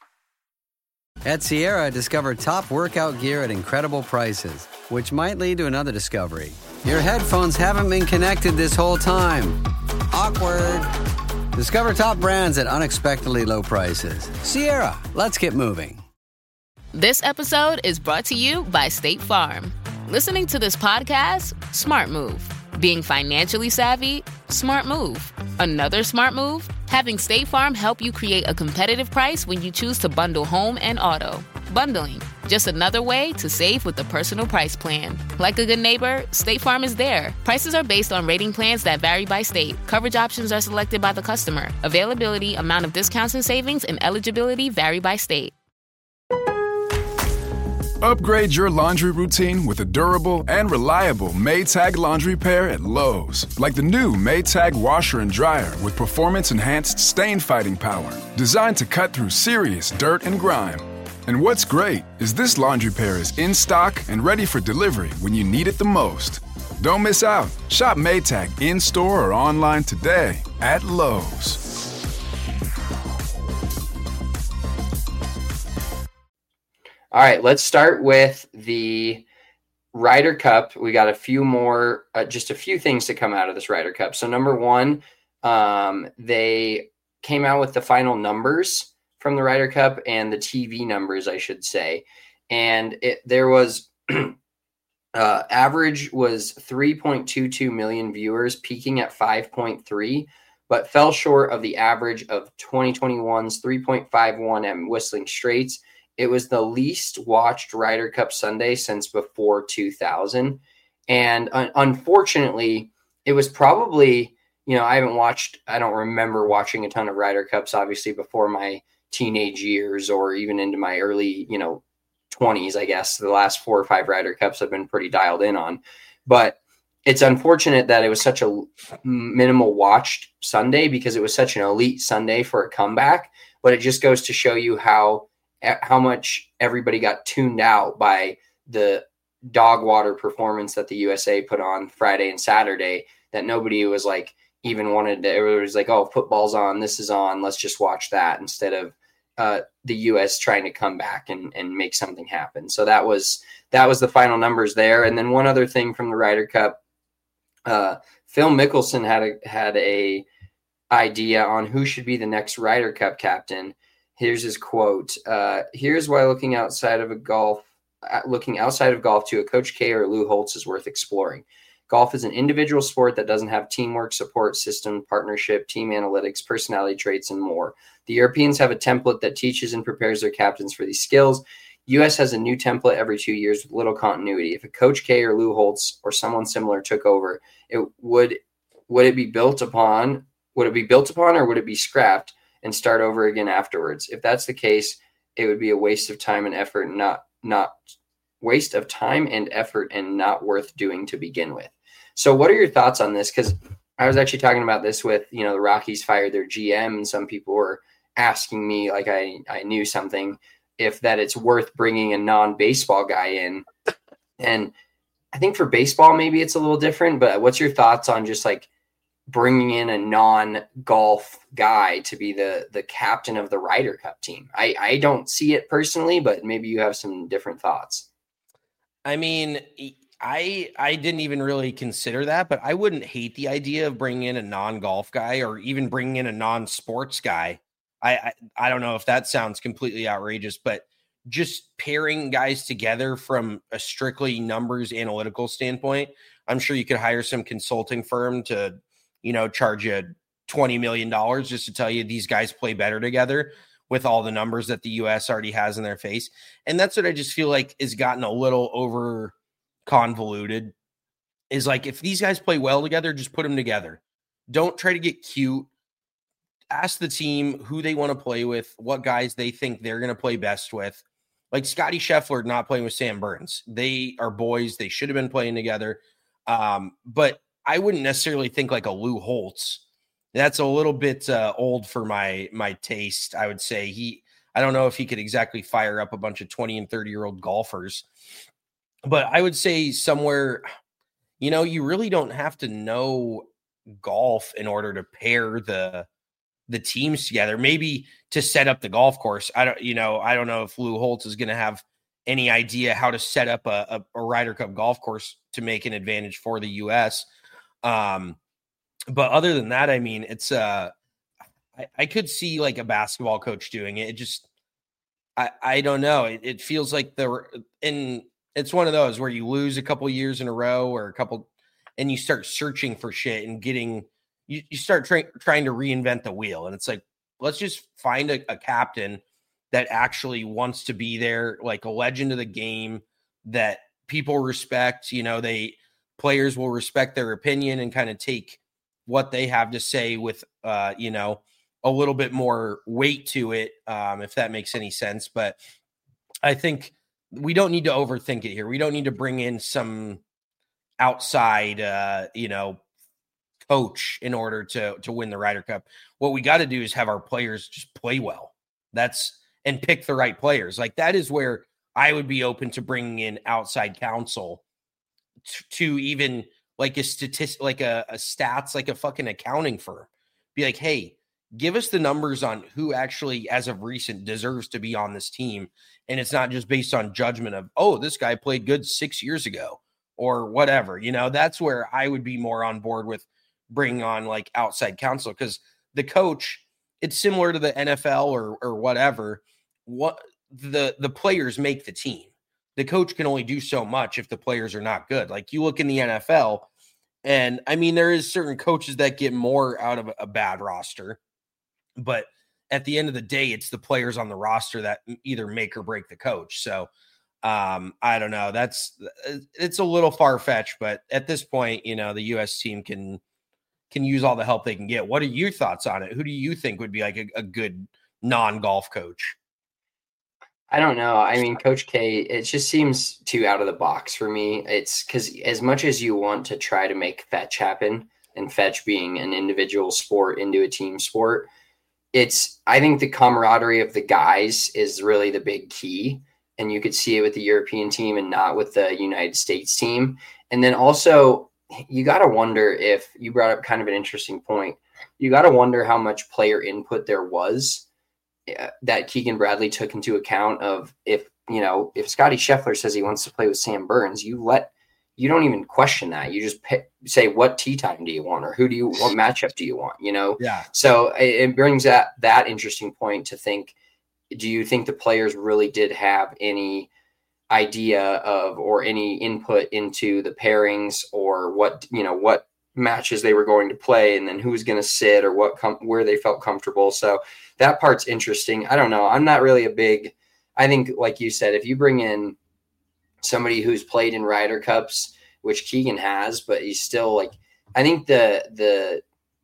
At Sierra, discover top workout gear at incredible prices, which might lead to another discovery. Your headphones haven't been connected this whole time. Awkward. Discover top brands at unexpectedly low prices. Sierra, let's get moving. This episode is brought to you by State Farm. Listening to this podcast? Smart move. Being financially savvy? Smart move. Another smart move? Having State Farm help you create a competitive price when you choose to bundle home and auto. Bundling, just another way to save with the Personal Price Plan. Like a good neighbor, State Farm is there. Prices are based on rating plans that vary by state. Coverage options are selected by the customer. Availability, amount of discounts and savings, and eligibility vary by state. Upgrade your laundry routine with a durable and reliable Maytag laundry pair at Lowe's. Like the new Maytag washer and dryer with performance-enhanced stain-fighting power. Designed to cut through serious dirt and grime. And what's great is this laundry pair is in stock and ready for delivery when you need it the most. Don't miss out. Shop Maytag in-store or online today at Lowe's. All right, let's start with the Ryder Cup. We got a few more, uh, just a few things to come out of this Ryder Cup. So number one, um, they came out with the final numbers from the Ryder Cup and the T V numbers, I should say. And it, there was uh, average was three point two two million viewers, peaking at five point three, but fell short of the average of twenty twenty-one's three point five one at Whistling Straits. It was the least watched Ryder Cup Sunday since before two thousand. And un- unfortunately, it was probably, you know, I haven't watched, I don't remember watching a ton of Ryder Cups, obviously, before my teenage years or even into my early, you know, twenties, I guess. The last four or five Ryder Cups I've been pretty dialed in on. But it's unfortunate that it was such a minimal watched Sunday because it was such an elite Sunday for a comeback. But it just goes to show you how how much everybody got tuned out by the dog water performance that the U S A put on Friday and Saturday, that nobody was like even wanted to, it was like, oh, football's on, this is on, let's just watch that, instead of uh, the U S trying to come back and, and make something happen. So that was, that was the final numbers there. And then one other thing from the Ryder Cup, uh, Phil Mickelson had a, had a idea on who should be the next Ryder Cup captain. Here's his quote. Uh, Here's why looking outside of a golf, uh, looking outside of golf to a Coach K or Lou Holtz is worth exploring. Golf is an individual sport that doesn't have teamwork, support system, partnership, team analytics, personality traits, and more. The Europeans have a template that teaches and prepares their captains for these skills. U S has a new template every two years with little continuity. If a Coach K or Lou Holtz or someone similar took over, it would would it be built upon? Would it be built upon, or would it be scrapped and start over again afterwards? If that's the case, it would be a waste of time and effort, not not waste of time and effort, and not worth doing to begin with. So what are your thoughts on this? Because I was actually talking about this with, you know, the Rockies fired their G M, and some people were asking me, like I, I knew something, if that it's worth bringing a non-baseball guy in. And I think for baseball, maybe it's a little different, but what's your thoughts on just like bringing in a non-golf guy to be the the captain of the Ryder Cup team? I, I don't see it personally, but maybe you have some different thoughts. I mean, I I didn't even really consider that, but I wouldn't hate the idea of bringing in a non-golf guy or even bringing in a non-sports guy. I, I I don't know if that sounds completely outrageous, but just pairing guys together from a strictly numbers analytical standpoint, I'm sure you could hire some consulting firm to, you know, charge you twenty million dollars just to tell you these guys play better together with all the numbers that the U S already has in their face. And that's what I just feel like has gotten a little over convoluted, is like, if these guys play well together, just put them together. Don't try to get cute. Ask the team who they want to play with, what guys they think they're going to play best with. Like Scotty Scheffler not playing with Sam Burns. They are boys. They should have been playing together. Um, but I wouldn't necessarily think like a Lou Holtz. That's a little bit uh, old for my my taste, I would say. He, I don't know if he could exactly fire up a bunch of twenty and thirty-year-old golfers. But I would say somewhere, you know, you really don't have to know golf in order to pair the the teams together. Maybe to set up the golf course. I don't, you know, I don't know if Lou Holtz is going to have any idea how to set up a, a, a Ryder Cup golf course to make an advantage for the U S. Um, but other than that, I mean, it's uh, I, I could see like a basketball coach doing it. It just, I, I don't know. It, it feels like the, and it's one of those where you lose a couple years in a row or a couple, and you start searching for shit and getting, you, you start try, trying to reinvent the wheel. And it's like, let's just find a, a captain that actually wants to be there, like a legend of the game that people respect. You know, they players will respect their opinion and kind of take what they have to say with, uh, you know, a little bit more weight to it, um, if that makes any sense. But I think we don't need to overthink it here. We don't need to bring in some outside, uh, you know, coach in order to to win the Ryder Cup. What we got to do is have our players just play well. That's and pick the right players. Like that is where I would be open to bringing in outside counsel to, to even like a statistic, like a, a stats, like a fucking accounting firm. Be like, hey, give us the numbers on who actually, as of recent, deserves to be on this team. And it's not just based on judgment of, oh, this guy played good six years ago or whatever. You know, that's where I would be more on board with bringing on like outside counsel, because the coach, it's similar to the N F L or or whatever. What the the players make the team. The coach can only do so much if the players are not good. Like you look in the N F L, and I mean, there is certain coaches that get more out of a bad roster, but at the end of the day, it's the players on the roster that either make or break the coach. So um, I don't know. That's it's a little far fetched, but at this point, you know, the U S team can can use all the help they can get. What are your thoughts on it? Who do you think would be like a, a good non-golf coach? I don't know. I mean, Coach K, it just seems too out of the box for me. It's because as much as you want to try to make fetch happen, and fetch being an individual sport into a team sport, it's, I think the camaraderie of the guys is really the big key. And you could see it with the European team and not with the United States team. And then also, you got to wonder if you brought up kind of an interesting point. You got to wonder how much player input there was uh, that Keegan Bradley took into account of if, you know, if Scotty Scheffler says he wants to play with Sam Burns, you let, you don't even question that. You just pick, say, what tee time do you want? Or who do you, what matchup do you want? You know? Yeah. So it, it brings that, that interesting point to think, do you think the players really did have any idea of or any input into the pairings or what, you know, what matches they were going to play and then who's going to sit or what com- where they felt comfortable. So that part's interesting. I don't know. I'm not really a big, I think like you said, if you bring in somebody who's played in Ryder Cups, which Keegan has, but he's still like, I think the, the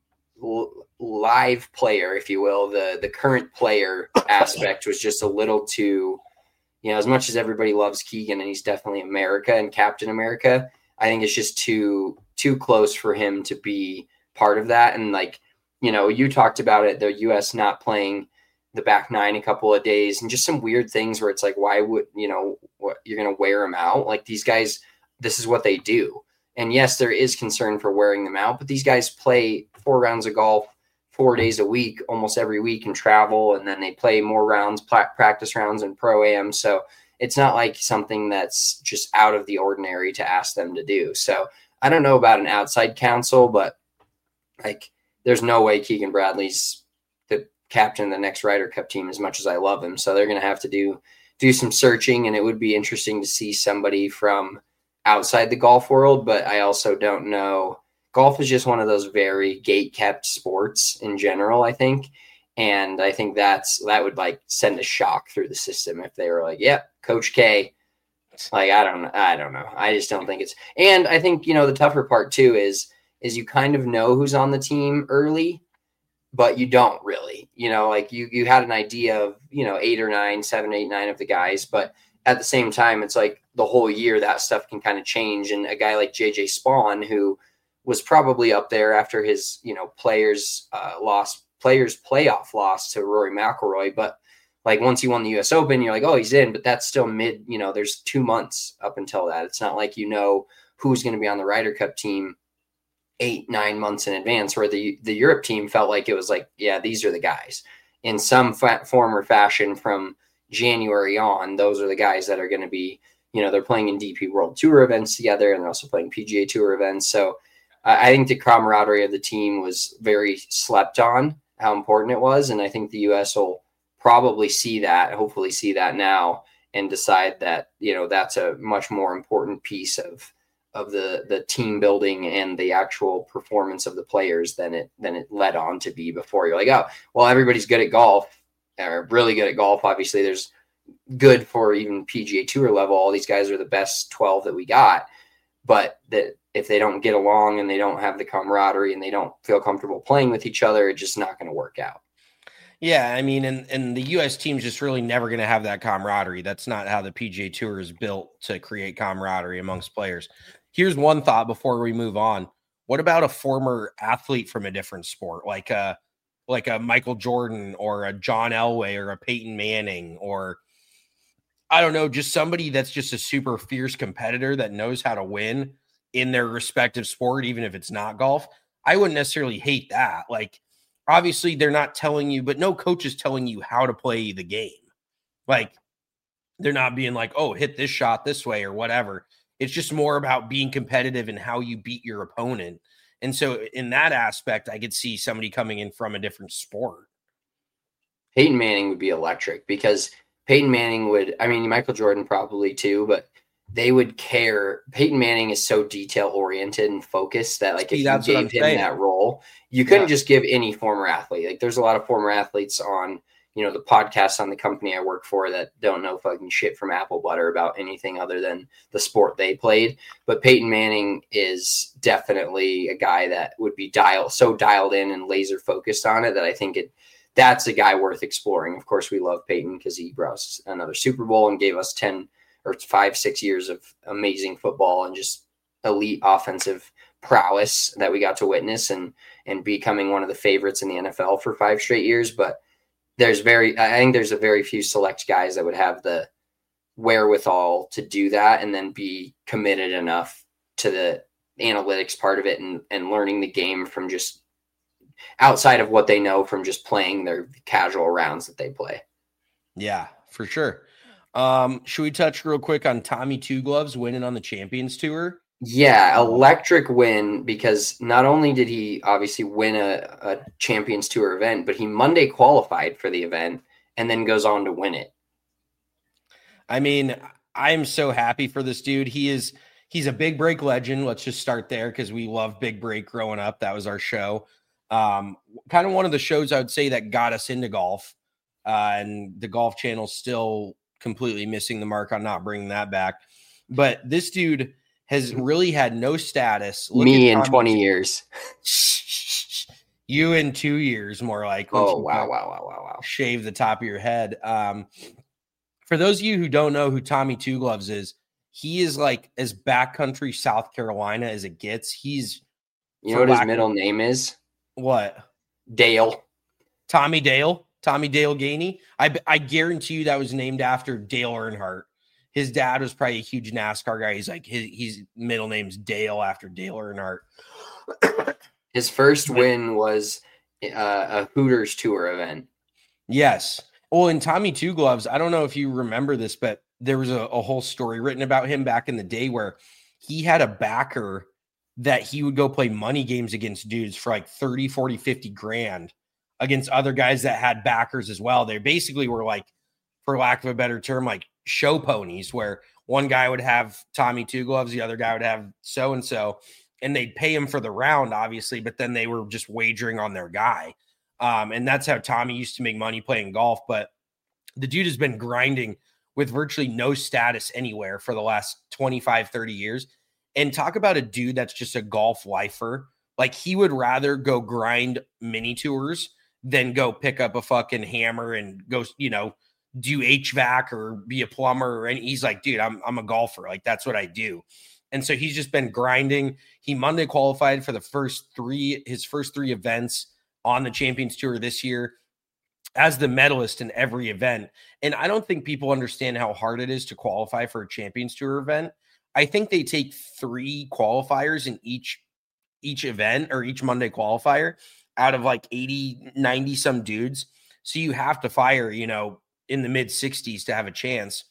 l- live player, if you will, the, the current player aspect was just a little too, you know, as much as everybody loves Keegan and he's definitely America and Captain America, I think it's just too, too close for him to be part of that. And like, you know, you talked about it, the U S not playing the back nine a couple of days and just some weird things where it's like, why would, you know, what you're going to wear them out? Like these guys, this is what they do. And yes, there is concern for wearing them out, but these guys play four rounds of golf, four days a week, almost every week and travel. And then they play more rounds, practice rounds and pro-am. So it's not like something that's just out of the ordinary to ask them to do. So I don't know about an outside counsel, but like there's no way Keegan Bradley's the captain of the next Ryder Cup team as much as I love him. So they're going to have to do, do some searching, and it would be interesting to see somebody from outside the golf world. But I also don't know. Golf is just one of those very gate-kept sports in general, I think. And I think that's that would like send a shock through the system if they were like, "Yep, yeah, Coach K." Like I don't, I don't know. I just don't think it's. And I think you know the tougher part too is is you kind of know who's on the team early, but you don't really. You know, like you you had an idea of you know eight or nine, seven, eight, nine of the guys, but at the same time, it's like the whole year that stuff can kind of change. And a guy like J J Spawn, who was probably up there after his, you know, players uh, lost players playoff loss to Rory McIlroy. But like once he won the U S Open, you're like, oh, he's in, but that's still mid, you know, there's two months up until that. It's not like, you know, who's going to be on the Ryder Cup team eight, nine months in advance, where the, the Europe team felt like it was like, yeah, these are the guys in some fa- form or fashion from January on. Those are the guys that are going to be, you know, they're playing in D P World Tour events together and they're also playing P G A Tour events. So I think the camaraderie of the team was very slept on, how important it was. And I think the U S will probably see that, hopefully see that now and decide that, you know, that's a much more important piece of, of the, the team building and the actual performance of the players than it, than it led on to be before. You're like, oh, well, everybody's good at golf or really good at golf. Obviously there's good for even P G A Tour level. All these guys are the best twelve that we got, but that, if they don't get along and they don't have the camaraderie and they don't feel comfortable playing with each other, it's just not going to work out. Yeah, I mean, and, and the U S team's just really never going to have that camaraderie. That's not how the P G A Tour is built, to create camaraderie amongst players. Here's one thought before we move on. What about a former athlete from a different sport, like a, like a Michael Jordan or a John Elway or a Peyton Manning, or I don't know, just somebody that's just a super fierce competitor that knows how to win in their respective sport, even if it's not golf? I wouldn't necessarily hate that. Like, obviously they're not telling you, but no coach is telling you how to play the game. Like, they're not being like, oh, hit this shot this way or whatever. It's just more about being competitive and how you beat your opponent. And so in that aspect, I could see somebody coming in from a different sport. Peyton Manning would be electric because Peyton Manning would, I mean, Michael Jordan probably too, but they would care. Peyton Manning is so detail oriented and focused that, like, if you gave him that role, you couldn't yeah. just give any former athlete. Like, there's a lot of former athletes on, you know, the podcast on the company I work for that don't know fucking shit from apple butter about anything other than the sport they played. But Peyton Manning is definitely a guy that would be dialed so dialed in and laser focused on it that I think it that's a guy worth exploring. Of course, we love Peyton because he brought us another Super Bowl and gave us ten or five, six years of amazing football and just elite offensive prowess that we got to witness and, and becoming one of the favorites in the N F L for five straight years. But there's very, I think there's a very few select guys that would have the wherewithal to do that and then be committed enough to the analytics part of it and, and learning the game from just outside of what they know from just playing their casual rounds that they play. Yeah, for sure. Um, should we touch real quick on Tommy Two Gloves winning on the Champions Tour? Yeah, electric win because not only did he obviously win a, a Champions Tour event, but he Monday qualified for the event and then goes on to win it. I mean, I'm so happy for this dude. He is he's a big break legend. Let's just start there because we love Big Break growing up. That was our show. Um, kind of one of the shows I would say that got us into golf. Uh, and the Golf Channel still completely missing the mark on not bringing that back. But this dude has really had no status. Look Me in twenty years. You in two years, more like. Oh, wow, wow, wow, wow, wow. Shave the top of your head. Um, for those of you who don't know who Tommy Two Gloves is, he is like as backcountry South Carolina as it gets. He's. You know what his middle name is? What? Dale. Tommy Dale? Tommy Dale Gainey? I, I guarantee you that was named after Dale Earnhardt. His dad was probably a huge NASCAR guy. He's like, his, his middle name's Dale after Dale Earnhardt. His first win was uh, a Hooters Tour event. Yes. Well, in Tommy Two Gloves, I don't know if you remember this, but there was a, a whole story written about him back in the day where he had a backer that he would go play money games against dudes for like thirty, forty, fifty grand against other guys that had backers as well. They basically were like, for lack of a better term, like show ponies, where one guy would have Tommy Two Gloves, the other guy would have so-and-so, and they'd pay him for the round, obviously, but then they were just wagering on their guy. Um, and that's how Tommy used to make money playing golf. But the dude has been grinding with virtually no status anywhere for the last twenty-five, thirty years. And talk about a dude that's just a golf lifer. Like, he would rather go grind mini tours than go pick up a fucking hammer and go, you know, do H V A C or be a plumber. And he's like, dude, I'm I'm a golfer. Like, that's what I do. And so he's just been grinding. He Monday qualified for the first three, his first three events on the Champions Tour this year as the medalist in every event. And I don't think people understand how hard it is to qualify for a Champions Tour event. I think they take three qualifiers in each each event or each Monday qualifier out of like eighty, ninety some dudes. So you have to fire, you know, in the mid sixties to have a chance.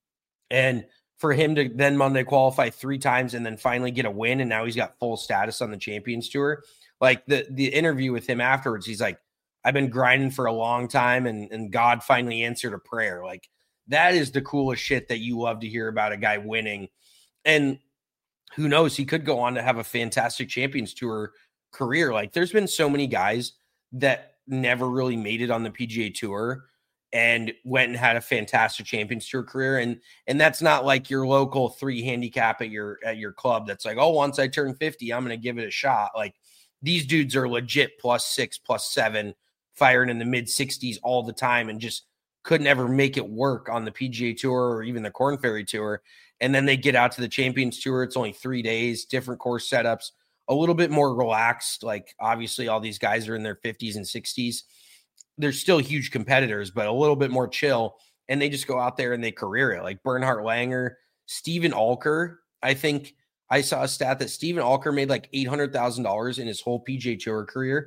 And for him to then Monday qualify three times and then finally get a win, and now he's got full status on the Champions Tour. Like the the interview with him afterwards, he's like, I've been grinding for a long time, and, and God finally answered a prayer. Like, that is the coolest shit that you love to hear about a guy winning. And who knows, he could go on to have a fantastic Champions Tour career. Like, there's been so many guys that never really made it on the P G A Tour and went and had a fantastic Champions Tour career. And and that's not like your local three handicap at your at your club that's like, oh, once I turn fifty, I'm going to give it a shot. Like, these dudes are legit plus six, plus seven, firing in the mid sixties all the time and just couldn't ever make it work on the P G A Tour or even the Korn Ferry Tour. And then they get out to the Champions Tour. It's only three days, different course setups, a little bit more relaxed. Like, obviously all these guys are in their fifties and sixties. They're still huge competitors, but a little bit more chill. And they just go out there and they career it. Like Bernhard Langer, Steven Alker. I think I saw a stat that Steven Alker made like eight hundred thousand dollars in his whole P G A Tour career.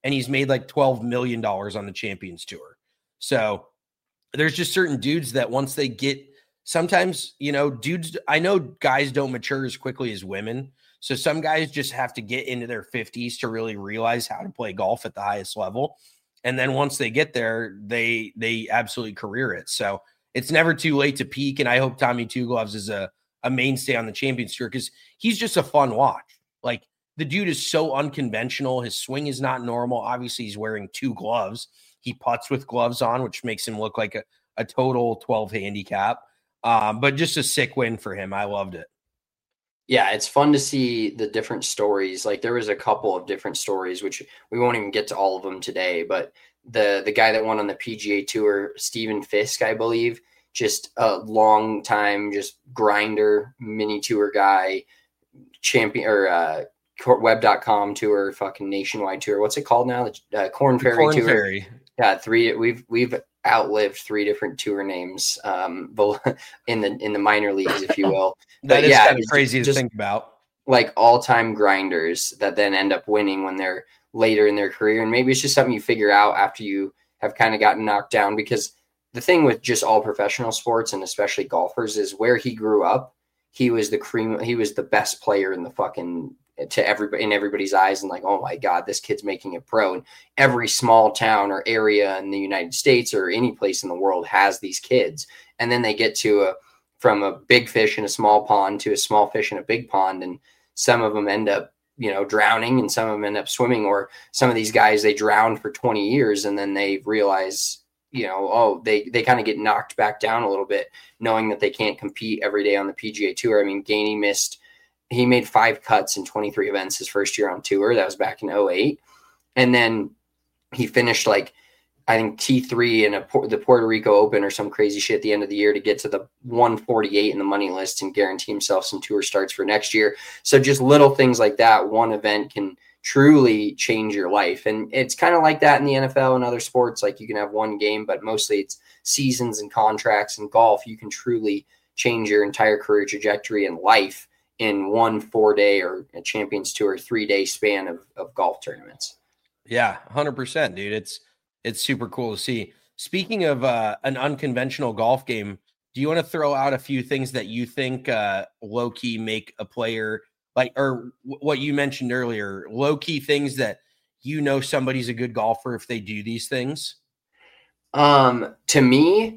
and he's made like twelve million dollars on the Champions Tour. So there's just certain dudes that once they get, sometimes, you know, dudes, I know guys don't mature as quickly as women. So some guys just have to get into their fifties to really realize how to play golf at the highest level. And then once they get there, they they absolutely career it. So it's never too late to peak. And I hope Tommy Two Gloves is a, a mainstay on the Champions Tour because he's just a fun watch. Like, the dude is so unconventional. His swing is not normal. Obviously, he's wearing two gloves. He putts with gloves on, which makes him look like a, a total twelve handicap. Um, but just a sick win for him. I loved it. Yeah, it's fun to see the different stories. Like, there was a couple of different stories, which we won't even get to all of them today. But the the guy that won on the P G A Tour, Stephen Fisk, I believe, just a long time, just grinder, mini tour guy, champion or uh, web dot com tour, fucking nationwide tour. What's it called now? The uh, Corn Ferry Corn Tour. Ferry. Yeah, three. We've we've outlived three different tour names um in the in the minor leagues, if you will. That but is yeah, kind of crazy to just think about. Like all-time grinders that then end up winning when they're later in their career. And maybe it's just something you figure out after you have kind of gotten knocked down, because the thing with just all professional sports and especially golfers is where he grew up, he was the cream. He was the best player in the fucking to everybody in everybody's eyes. And like, oh my God, this kid's making it pro. And every small town or area in the United States or any place in the world has these kids. And then they get to a, from a big fish in a small pond to a small fish in a big pond. And some of them end up, you know, drowning, and some of them end up swimming, or some of these guys, they drowned for twenty years and then they realize, you know, oh, they, they kind of get knocked back down a little bit, knowing that they can't compete every day on the P G A Tour. I mean, Gainey missed, he made five cuts in twenty-three events his first year on tour. That was back in oh eight. And then he finished like, I think T three in a, the Puerto Rico Open or some crazy shit at the end of the year to get to the one forty-eight in the money list and guarantee himself some tour starts for next year. So just little things like that, one event can truly change your life. And it's kind of like that in the N F L and other sports. Like, you can have one game, but mostly it's seasons and contracts. And golf, you can truly change your entire career trajectory and life in one four day or a Champions Tour three day span of, of golf tournaments. Yeah, one hundred percent, dude. It's, it's super cool to see. Speaking of uh, an unconventional golf game, do you want to throw out a few things that you think uh, low key make a player like, or w- what you mentioned earlier, low key things that, you know, somebody's a good golfer if they do these things? Um, to me,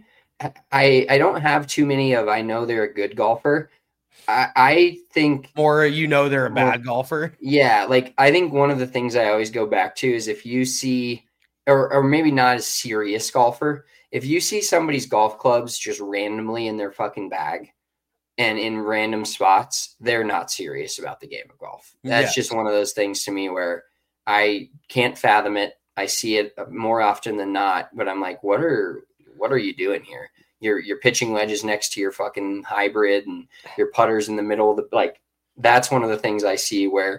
I, I don't have too many of, I know they're a good golfer. I, I think more, you know, they're a bad well, golfer. Yeah. Like, I think one of the things I always go back to is if you see, or, or maybe not a serious golfer, if you see somebody's golf clubs just randomly in their fucking bag and in random spots, they're not serious about the game of golf. That's yes. just one of those things to me where I can't fathom it. I see it more often than not, but I'm like, what are, what are you doing here? Your, your pitching wedges next to your fucking hybrid and your putters in the middle of the, like, that's one of the things I see where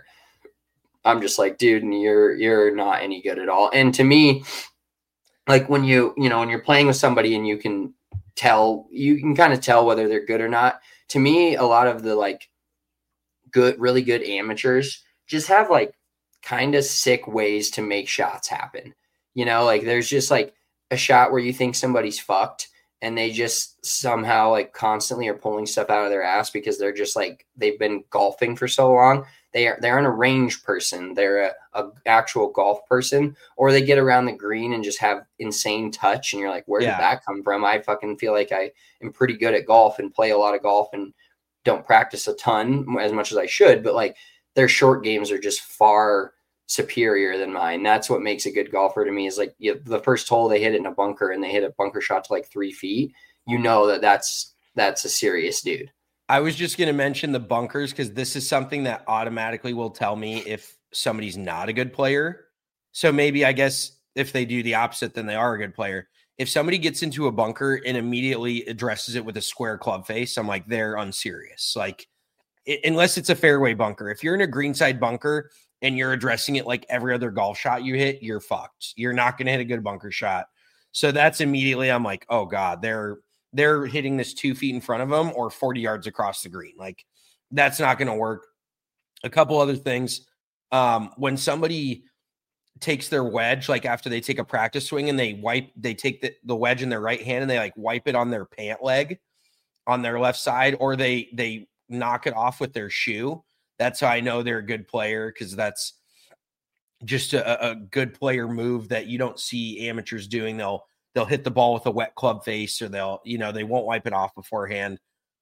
I'm just like, dude, you're, you're not any good at all. And to me, like when you, you know, when you're playing with somebody and you can tell, you can kind of tell whether they're good or not. To me, a lot of the like good, really good amateurs just have like kind of sick ways to make shots happen. You know, like there's just like a shot where you think somebody's fucked and they just somehow like constantly are pulling stuff out of their ass because they're just like, they've been golfing for so long. They are, they're an range person. They're a, a actual golf person, or they get around the green and just have insane touch. And you're like, where yeah. did that come from? I fucking feel like I am pretty good at golf and play a lot of golf and don't practice a ton as much as I should, but like their short games are just far superior than mine. That's what makes a good golfer to me is like you know, the first hole they hit it in a bunker and they hit a bunker shot to like three feet. You know, that that's, that's a serious dude. I was just going to mention the bunkers because this is something that automatically will tell me if somebody's not a good player. So maybe I guess if they do the opposite, then they are a good player. If somebody gets into a bunker and immediately addresses it with a square club face, I'm like, they're unserious. Like, it, unless it's a fairway bunker. If you're in a greenside bunker and you're addressing it like every other golf shot you hit, you're fucked. You're not going to hit a good bunker shot. So that's immediately, I'm like, oh God, they're, they're hitting this two feet in front of them or forty yards across the green. Like that's not going to work. A couple other things. Um, when somebody takes their wedge, like after they take a practice swing and they wipe, they take the, the wedge in their right hand and they like wipe it on their pant leg on their left side, or they, they knock it off with their shoe. That's how I know they're a good player. Cause that's just a, a good player move that you don't see amateurs doing. They'll, they'll hit the ball with a wet club face, or they'll, you know, they won't wipe it off beforehand.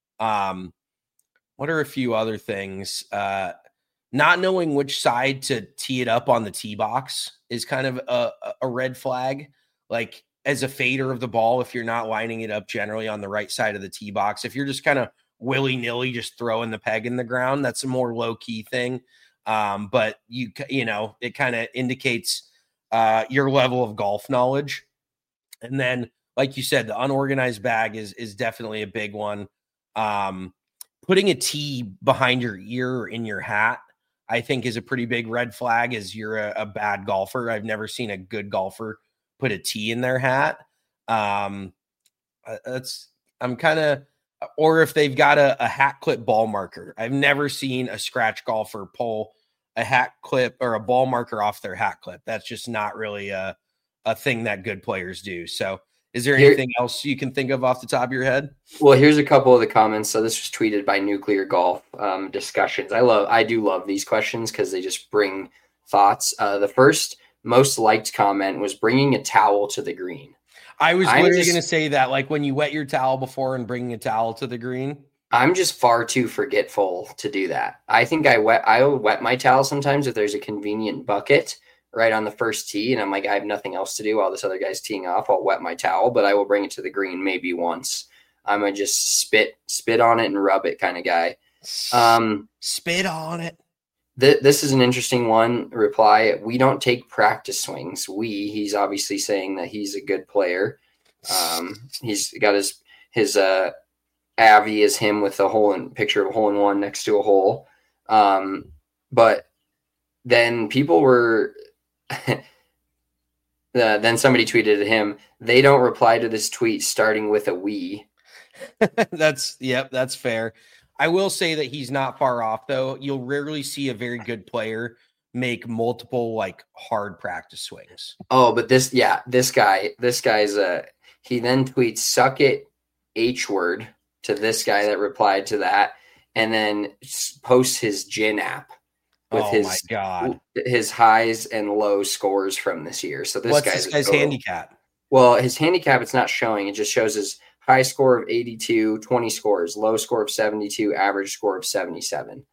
Um, what are a few other things? Uh, Not knowing which side to tee it up on the tee box is kind of a, a red flag. Like as a fader of the ball, if you're not lining it up generally on the right side of the tee box, if you're just kind of willy-nilly just throwing the peg in the ground, that's a more low-key thing. Um, but you you know, it kind of indicates uh, your level of golf knowledge. And then, like you said, the unorganized bag is is definitely a big one. Um, putting a tee behind your ear or in your hat, I think, is a pretty big red flag as you're a, a bad golfer. I've never seen a good golfer put a tee in their hat. Um, that's I'm kind of, or if they've got a, a hat clip ball marker. I've never seen a scratch golfer pull a hat clip or a ball marker off their hat clip. That's just not really a, a thing that good players do. So is there anything Here, else you can think of off the top of your head? Well, here's a couple of the comments. So this was tweeted by Nuclear Golf um, Discussions. I love, I do love these questions because they just bring thoughts. Uh, the first most liked comment was bringing a towel to the green. I was I'm literally going to say that, like when you wet your towel before and bringing a towel to the green. I'm just far too forgetful to do that. I think I wet, I will wet my towel sometimes if there's a convenient bucket right on the first tee, and I'm like, I have nothing else to do while this other guy's teeing off. I'll wet my towel, but I will bring it to the green maybe once. I'm a just spit, spit on it and rub it kind of guy. Um, spit on it. Th- this is an interesting one. Reply: we don't take practice swings. We, he's obviously saying that he's a good player. Um, he's got his his uh, Avi is him with a hole in picture of a hole in one next to a hole. Um, but then people were. Uh, then somebody tweeted at him, they don't reply to this tweet starting with a we. That's yep, that's fair. I will say that he's not far off though. You'll rarely see a very good player make multiple like hard practice swings. Oh, but this yeah, this guy, this guy's a he then tweets suck it H word to this guy that replied to that, and then posts his Gin app. With oh his, my God. his highs and low scores from this year. So this What's guy's this guy's handicap? Well, his handicap, it's not showing. It just shows his high score of eighty-two, twenty scores, low score of seventy-two, average score of seventy-seven.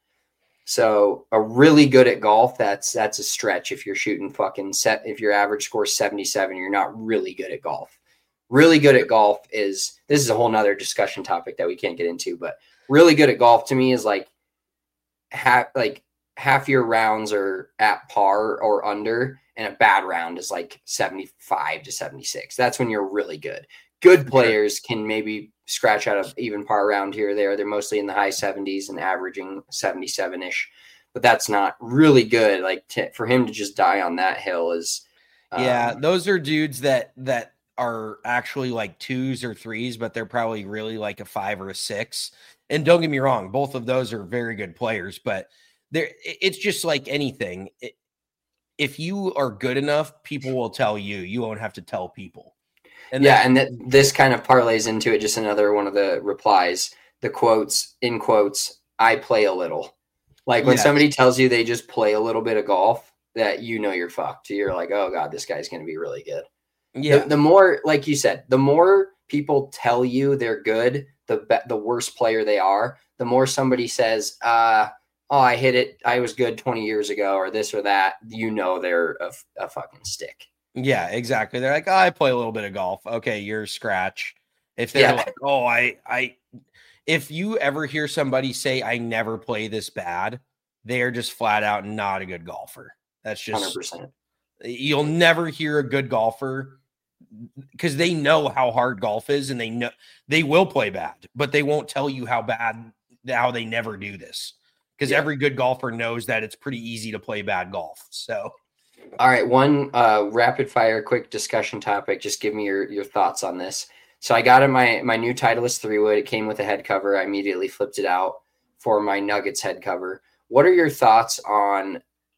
So a really good at golf. That's, that's a stretch. If you're shooting fucking set, if your average score is seventy-seven, you're not really good at golf. Really good at golf is, this is a whole nother discussion topic that we can't get into, but really good at golf to me is like, ha- like, half your rounds are at par or under, and a bad round is like seventy-five to seventy-six. That's when you're really good. Good players can maybe scratch out of even par round here or there. They're mostly in the high seventies and averaging seventy-seven-ish, but that's not really good. Like t- for him to just die on that hill is um, yeah, those are dudes that that are actually like twos or threes, but they're probably really like a five or a six. And don't get me wrong, both of those are very good players, but there, it's just like anything. It, if you are good enough, people will tell you. You won't have to tell people. And yeah, that, and that this kind of parlays into it. Just another one of the replies, the quotes in quotes. I play a little. Like when yes. somebody tells you they just play a little bit of golf, that you know you're fucked. You're like, oh god, this guy's going to be really good. Yeah. The, the more, like you said, the more people tell you they're good, the be- the worse player they are. The more somebody says, uh. oh, I hit it, I was good twenty years ago, or this or that, you know they're a, a fucking stick. Yeah, exactly. They're like, oh, I play a little bit of golf. Okay, you're scratch. If they're yeah. like, oh, I, I, if you ever hear somebody say, I never play this bad, they are just flat out not a good golfer. That's just one hundred percent. You'll never hear a good golfer because they know how hard golf is, and they know they will play bad, but they won't tell you how bad, how they never do this. Because yeah. every good golfer knows that it's pretty easy to play bad golf. So, all right, one uh, rapid fire, quick discussion topic. Just give me your, your thoughts on this. So I got in my my new Titleist three wood. It came with a head cover. I immediately flipped it out for my Nuggets head cover. What are your thoughts on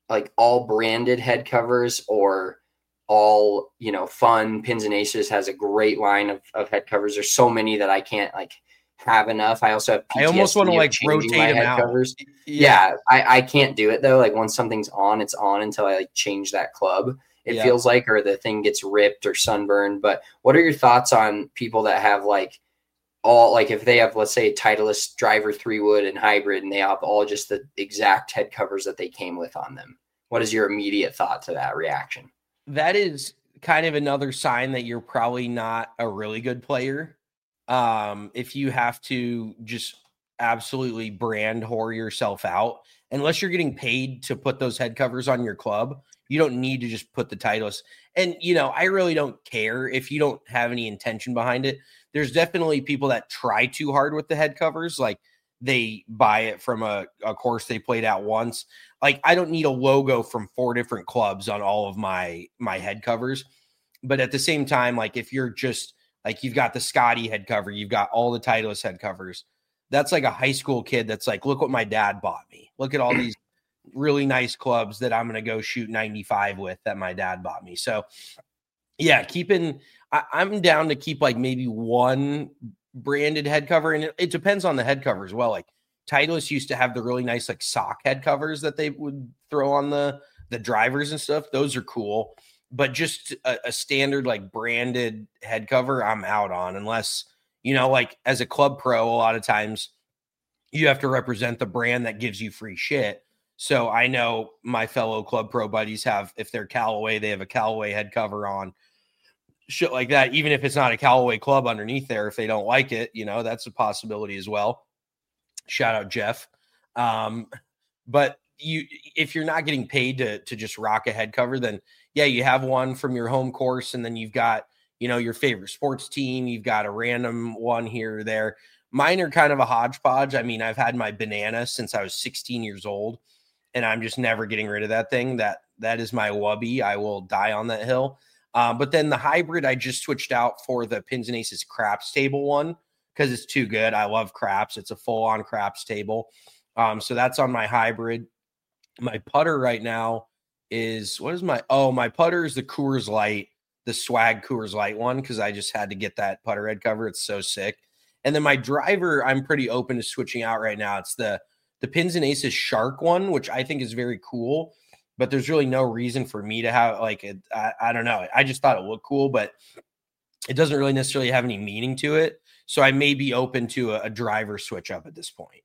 like all branded head covers or all, you know, fun. Pins and Aces has a great line of, of head covers. There's so many that I can't like have enough. I also have P T S D I almost want to like rotate my them head out. covers. Yeah, yeah I, I can't do it though. Like once something's on, it's on until I like change that club. It yeah. feels like, or the thing gets ripped or sunburned. But what are your thoughts on people that have like all, like if they have, let's say, Titleist driver three wood and hybrid, and they have all just the exact head covers that they came with on them? What is your immediate thought to that reaction? That is kind of another sign that you're probably not a really good player. Um, if you have to just absolutely brand whore yourself out, unless you're getting paid to put those head covers on your club, you don't need to just put the Titleist. And, you know, I really don't care if you don't have any intention behind it. There's definitely people that try too hard with the head covers. Like they buy it from a, a course they played out once. Like I don't need a logo from four different clubs on all of my, my head covers. But at the same time, like if you're just like, you've got the Scotty head cover, you've got all the Titleist head covers. That's like a high school kid that's like, look what my dad bought me. Look at all these really nice clubs that I'm going to go shoot ninety-five with that my dad bought me. So yeah, keeping, I, I'm down to keep like maybe one branded head cover. And it, it depends on the head cover as well. Like Titleist used to have the really nice like sock head covers that they would throw on the, the drivers and stuff. Those are cool. But just a, a standard like branded head cover, I'm out on, unless, you know, like as a club pro, a lot of times you have to represent the brand that gives you free shit. So I know my fellow club pro buddies have, if they're Callaway, they have a Callaway head cover on, shit like that. Even if it's not a Callaway club underneath there, if they don't like it, you know, that's a possibility as well. Shout out Jeff. Um, but you, if you're not getting paid to, to just rock a head cover, then yeah, you have one from your home course, and then you've got, you know, your favorite sports team. You've got a random one here or there. Mine are kind of a hodgepodge. I mean, I've had my banana since I was sixteen years old, and I'm just never getting rid of that thing. That that is my wubby. I will die on that hill. Um, but then the hybrid, I just switched out for the Pins and Aces craps table one because it's too good. I love craps. It's a full-on craps table. Um, so that's on my hybrid. My putter right now is, what is my, oh, my putter is the Coors Light, the swag Coors Light one, because I just had to get that putter head cover. It's so sick. And then my driver, I'm pretty open to switching out right now. It's the the Pins and Aces Shark one, which I think is very cool, but there's really no reason for me to have like it. I, I don't know. I just thought it looked cool, but it doesn't really necessarily have any meaning to it. So I may be open to a, a driver switch up at this point.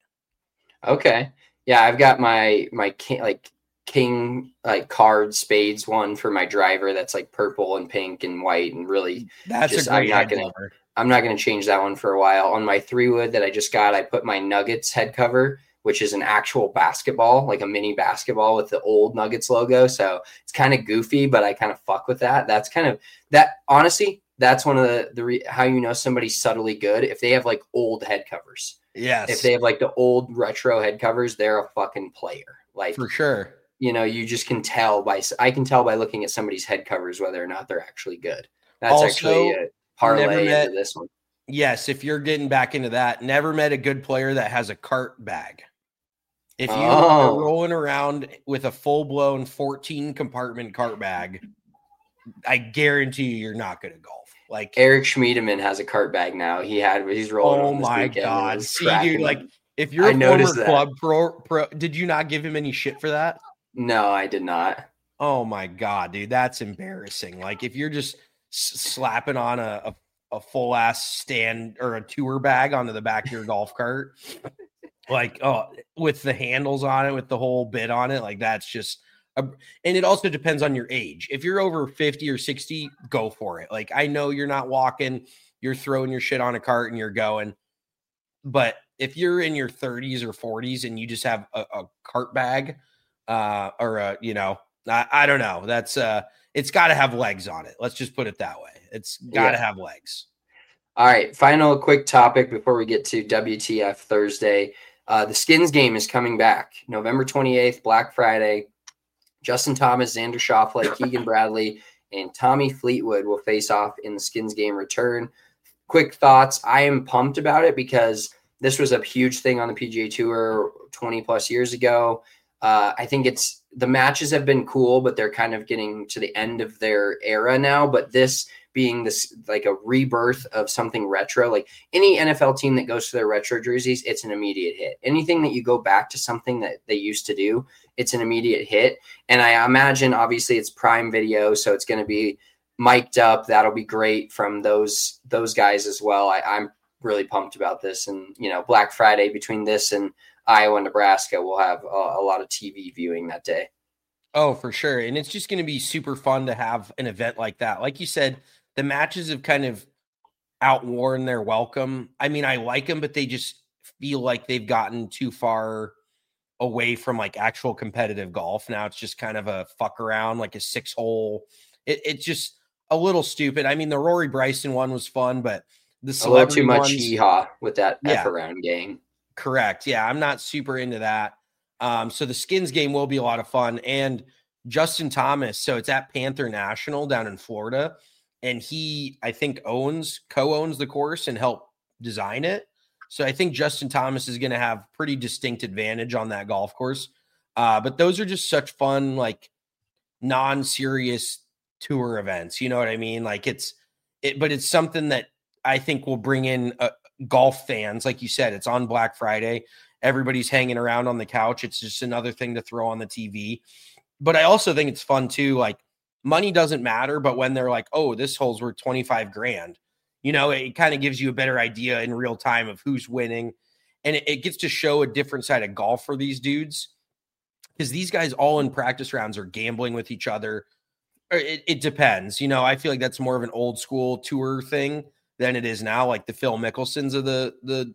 Okay. Yeah, I've got my my king, like king like card spades one for my driver that's like purple and pink and white and really that's just, a great I'm not head gonna cover. I'm not gonna change that one for a while. On my three wood that I just got, I put my Nuggets head cover, which is an actual basketball, like a mini basketball with the old Nuggets logo. So it's kind of goofy, but I kind of fuck with that. That's kind of that. Honestly, that's one of the the re, how you know somebody's subtly good if they have like old head covers. Yes. If they have like the old retro head covers, they're a fucking player. Like for sure. You know, you just can tell by, I can tell by looking at somebody's head covers whether or not they're actually good. That's also, actually a parlay met, into this one. Yes, if you're getting back into that, never met a good player that has a cart bag. If you oh. are rolling around with a full-blown fourteen compartment cart bag, I guarantee you you're not good at golf. Like Eric Schmiedemann has a cart bag now. He had he's rolling. Oh on this my god! See, dude, like if you're I a former that. club pro, pro, did you not give him any shit for that? No, I did not. Oh my god, dude, that's embarrassing. Like if you're just s- slapping on a, a, a full ass stand or a tour bag onto the back of your golf cart, like oh, with the handles on it, with the whole bit on it, like that's just. A, and it also depends on your age. If you're over fifty or sixty, go for it. Like I know you're not walking, you're throwing your shit on a cart and you're going. But if you're in your thirties or forties and you just have a, a cart bag, uh, or a, you know, I, I don't know. That's uh, it's got to have legs on it. Let's just put it that way. It's got to yeah. have legs. All right. Final quick topic before we get to W T F Thursday. Uh, the Skins game is coming back November twenty-eighth, Black Friday. Justin Thomas, Xander Schauffele, Keegan Bradley, and Tommy Fleetwood will face off in the Skins game return. Quick thoughts. I am pumped about it because this was a huge thing on the P G A Tour twenty plus years ago. Uh, I think it's the matches have been cool, but they're kind of getting to the end of their era now. But this being this like a rebirth of something retro, like any N F L team that goes to their retro jerseys, it's an immediate hit. Anything that you go back to something that they used to do, it's an immediate hit. And I imagine obviously it's Prime Video, so it's going to be mic'd up. That'll be great from those those guys as well. I, I'm really pumped about this. And, you know, Black Friday between this and Iowa, Nebraska, we'll have a, a lot of T V viewing that day. Oh, for sure. And it's just going to be super fun to have an event like that. Like you said, the matches have kind of outworn their welcome. I mean, I like them, but they just feel like they've gotten too far away from like actual competitive golf. Now it's just kind of a fuck around, like a six hole. It, it's just a little stupid. I mean, the Rory Bryson one was fun, but the a little too much ones, hee-haw with that yeah, F around gang. Correct. Yeah, I'm not super into that. Um, so the skins game will be a lot of fun. And Justin Thomas, so it's at Panther National down in Florida. And he, I think, owns, co-owns the course and helped design it. So I think Justin Thomas is going to have pretty distinct advantage on that golf course. Uh, but those are just such fun, like non-serious tour events. You know what I mean? Like it's, it, but it's something that I think will bring in uh, golf fans. Like you said, it's on Black Friday. Everybody's hanging around on the couch. It's just another thing to throw on the T V. But I also think it's fun too. Like money doesn't matter, but when they're like, oh, this hole's worth twenty-five grand, you know, it kind of gives you a better idea in real time of who's winning. And it, it gets to show a different side of golf for these dudes. Because these guys all in practice rounds are gambling with each other. It, it depends. You know, I feel like that's more of an old school tour thing than it is now. Like the Phil Mickelsons of the the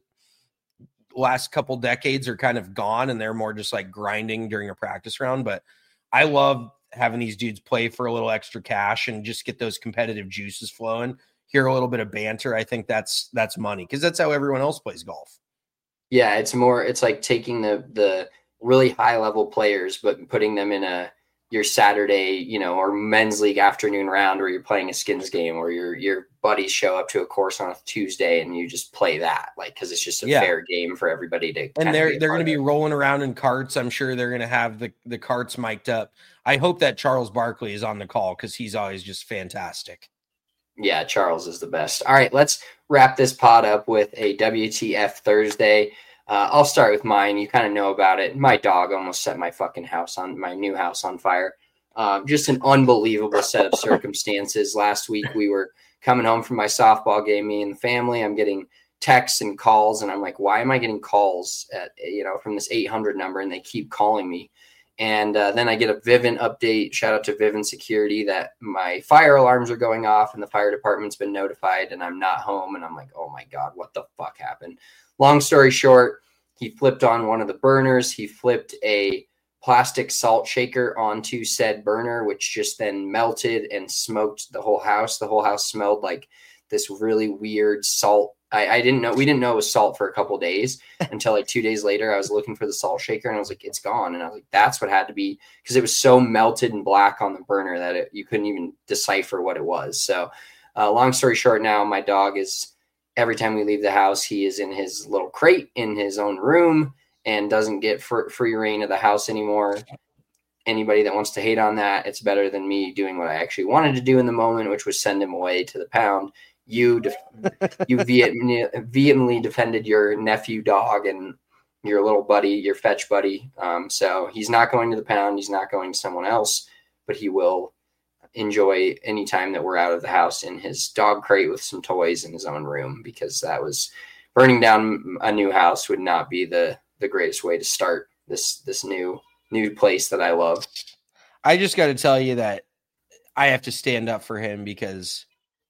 last couple decades are kind of gone, and they're more just like grinding during a practice round. But I love having these dudes play for a little extra cash and just get those competitive juices flowing. Hear a little bit of banter. I think that's that's money because that's how everyone else plays golf. Yeah, it's more. It's like taking the the really high level players, but putting them in a your Saturday, you know, or men's league afternoon round where you're playing a skins game, or your your buddies show up to a course on a Tuesday and you just play that, like, because it's just a yeah. fair game for everybody to. And they're they're going to be rolling around in carts. I'm sure they're going to have the the carts mic'd up. I hope that Charles Barkley is on the call because he's always just fantastic. Yeah, Charles is the best. All right, let's wrap this pod up with a W T F Thursday. Uh, I'll start with mine. You kind of know about it. My dog almost set my fucking house on my new house on fire. Uh, just an unbelievable set of circumstances. Last week we were coming home from my softball game, me and the family. I'm getting texts and calls, and I'm like, why am I getting calls at, you know, from this eight hundred number, and they keep calling me? And uh, then I get a Vivint update. Shout out to Vivint Security that my fire alarms are going off and the fire department's been notified and I'm not home. And I'm like, oh my God, what the fuck happened? Long story short, he flipped on one of the burners. He flipped a plastic salt shaker onto said burner, which just then melted and smoked the whole house. The whole house smelled like this really weird salt. I, I didn't know. We didn't know it was salt for a couple of days until like two days later. I was looking for the salt shaker and I was like, it's gone. And I was like, that's what had to be, because it was so melted and black on the burner that it, you couldn't even decipher what it was. So uh, long story short, now my dog is, every time we leave the house, he is in his little crate in his own room and doesn't get fr- free reign of the house anymore. Anybody that wants to hate on that, it's better than me doing what I actually wanted to do in the moment, which was send him away to the pound. You def- you vehemently, vehemently defended your nephew dog and your little buddy, your fetch buddy. Um, so he's not going to the pound. He's not going to someone else, but he will enjoy any time that we're out of the house in his dog crate with some toys in his own room, because that was burning down a new house would not be the, the greatest way to start this, this new, new place that I love. I just got to tell you that I have to stand up for him because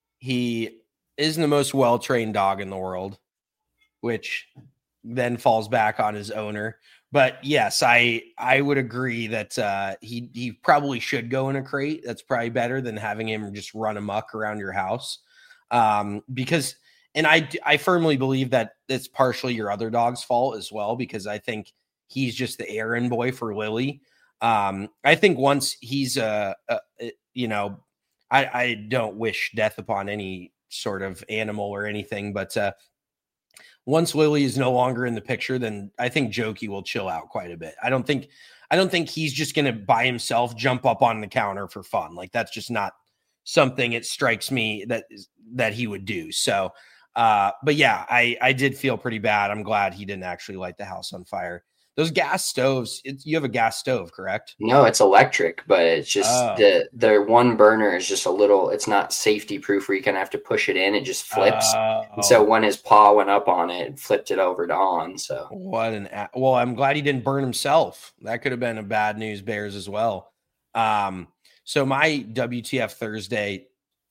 he isn't the most well-trained dog in the world, which then falls back on his owner. But yes, I I would agree that uh, he he probably should go in a crate. That's probably better than having him just run amok around your house. Um, because, and I I firmly believe that it's partially your other dog's fault as well, because I think he's just the errand boy for Lily. Um, I think once he's a, a you know, I, I don't wish death upon any sort of animal or anything, but uh, once Lily is no longer in the picture, then I think Jokey will chill out quite a bit. I don't think, I don't think he's just going to by himself jump up on the counter for fun. Like that's just not something it strikes me that that he would do. So, uh, but yeah, I, I did feel pretty bad. I'm glad he didn't actually light the house on fire. Those gas stoves, it, you have a gas stove, correct? No, it's electric, but it's just oh. the the one burner is just a little, it's not safety proof where you kind of have to push it in. It just flips. Oh. And so when his paw went up on it, it flipped it over to on. So what an, a- well, I'm glad he didn't burn himself. That could have been a bad news bears as well. Um, so my W T F Thursday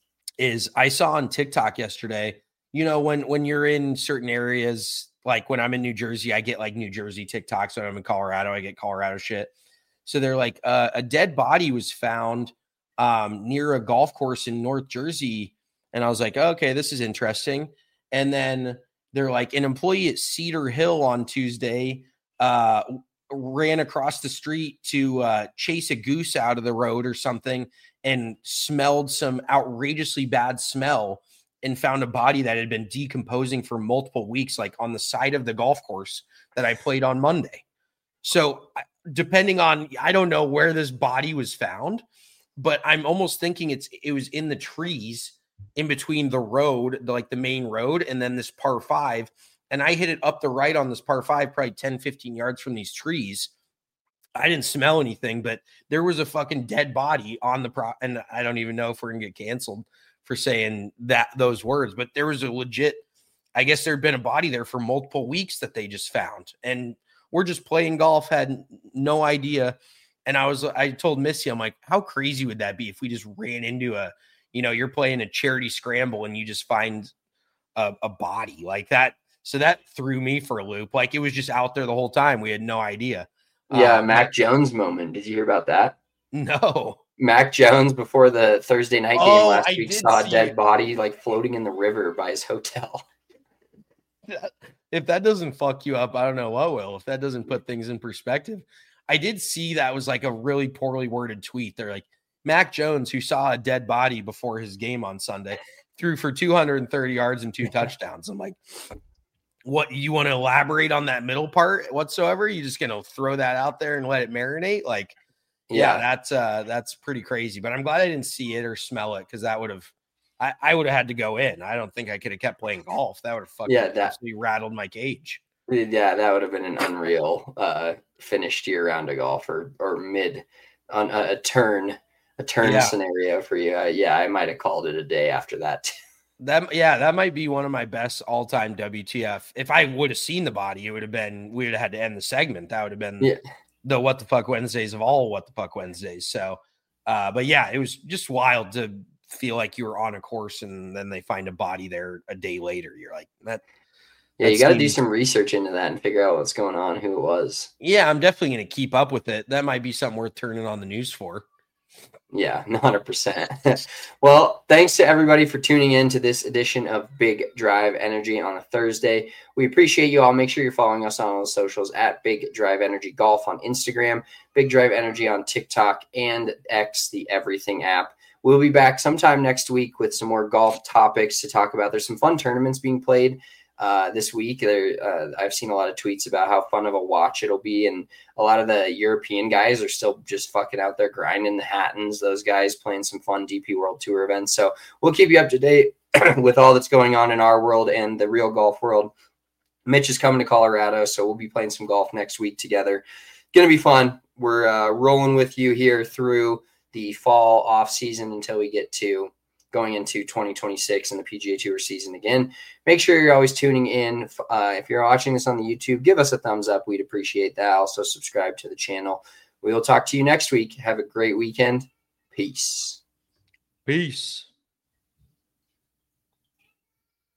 is I saw on TikTok yesterday, you know, when, when you're in certain areas, like when I'm in New Jersey, I get like New Jersey TikToks. When I'm in Colorado, I get Colorado shit. So they're like, uh, a dead body was found um, near a golf course in North Jersey. And I was like, okay, this is interesting. And then they're like, an employee at Cedar Hill on Tuesday uh, ran across the street to uh, chase a goose out of the road or something and smelled some outrageously bad smell and found a body that had been decomposing for multiple weeks, like on the side of the golf course that I played on Monday. So depending on, I don't know where this body was found, but I'm almost thinking it's, it was in the trees in between the road, the, like the main road, and then this par five. And I hit it up the right on this par five, probably ten, fifteen yards from these trees. I didn't smell anything, but there was a fucking dead body on the pro. And I don't even know if we're gonna get canceled for saying that those words, but there was a legit, I guess there'd been a body there for multiple weeks that they just found. And we're just playing golf, had no idea. And I was, I told Missy, I'm like, how crazy would that be if we just ran into a, you know, you're playing a charity scramble and you just find a, a body like that. So that threw me for a loop. Like it was just out there the whole time. We had no idea. Yeah. Um, Mac Jones moment. Did you hear about that? No. Mac Jones before the Thursday night game Oh, last I week did saw a see dead it. body like floating in the river by his hotel. If that doesn't fuck you up, I don't know what will. If that doesn't put things in perspective. I did see that was like a really poorly worded tweet. They're like, Mac Jones, who saw a dead body before his game on Sunday, threw for two hundred thirty yards and two touchdowns. I'm like, what, you want to elaborate on that middle part whatsoever? You just going to throw that out there and let it marinate? Like, yeah, Yeah. that's uh, that's pretty crazy. But I'm glad I didn't see it or smell it because that would have, I, I would have had to go in. I don't think I could have kept playing golf. That would have fucking Yeah, that- absolutely rattled my cage. Yeah, that would have been an unreal uh, finish to your round of golf or or mid on a, a turn a turn Yeah. scenario for you. Uh, yeah, I might have called it a day after that. That yeah, that might be one of my best all time W T F. If I would have seen the body, it would have been we would have had to end the segment. That would have been Yeah. the what the fuck Wednesdays of all what the fuck Wednesdays. So, uh, but yeah, it was just wild to feel like you were on a course and then they find a body there a day later. You're like that. Yeah, you that got to do seems- some research into that and figure out what's going on, who it was. Yeah, I'm definitely going to keep up with it. That might be something worth turning on the news for. Yeah, one hundred percent. Well, thanks to everybody for tuning in to this edition of Big Drive Energy on a Thursday. We appreciate you all. Make sure you're following us on all the socials at Big Drive Energy Golf on Instagram, Big Drive Energy on TikTok, and X, the Everything app. We'll be back sometime next week with some more golf topics to talk about. There's some fun tournaments being played uh, this week. There, uh, I've seen a lot of tweets about how fun of a watch it'll be, and a lot of the European guys are still just fucking out there grinding the Hattons. Those guys playing some fun D P World Tour events. So we'll keep you up to date with all that's going on in our world and the real golf world. Mitch is coming to Colorado, so we'll be playing some golf next week together. Gonna be fun. We're uh, rolling with you here through the fall off season until we get to going into twenty twenty-six and the P G A Tour season again. Make sure you're always tuning in. Uh, if you're watching this on the YouTube, give us a thumbs up. We'd appreciate that. Also subscribe to the channel. We will talk to you next week. Have a great weekend. Peace. Peace.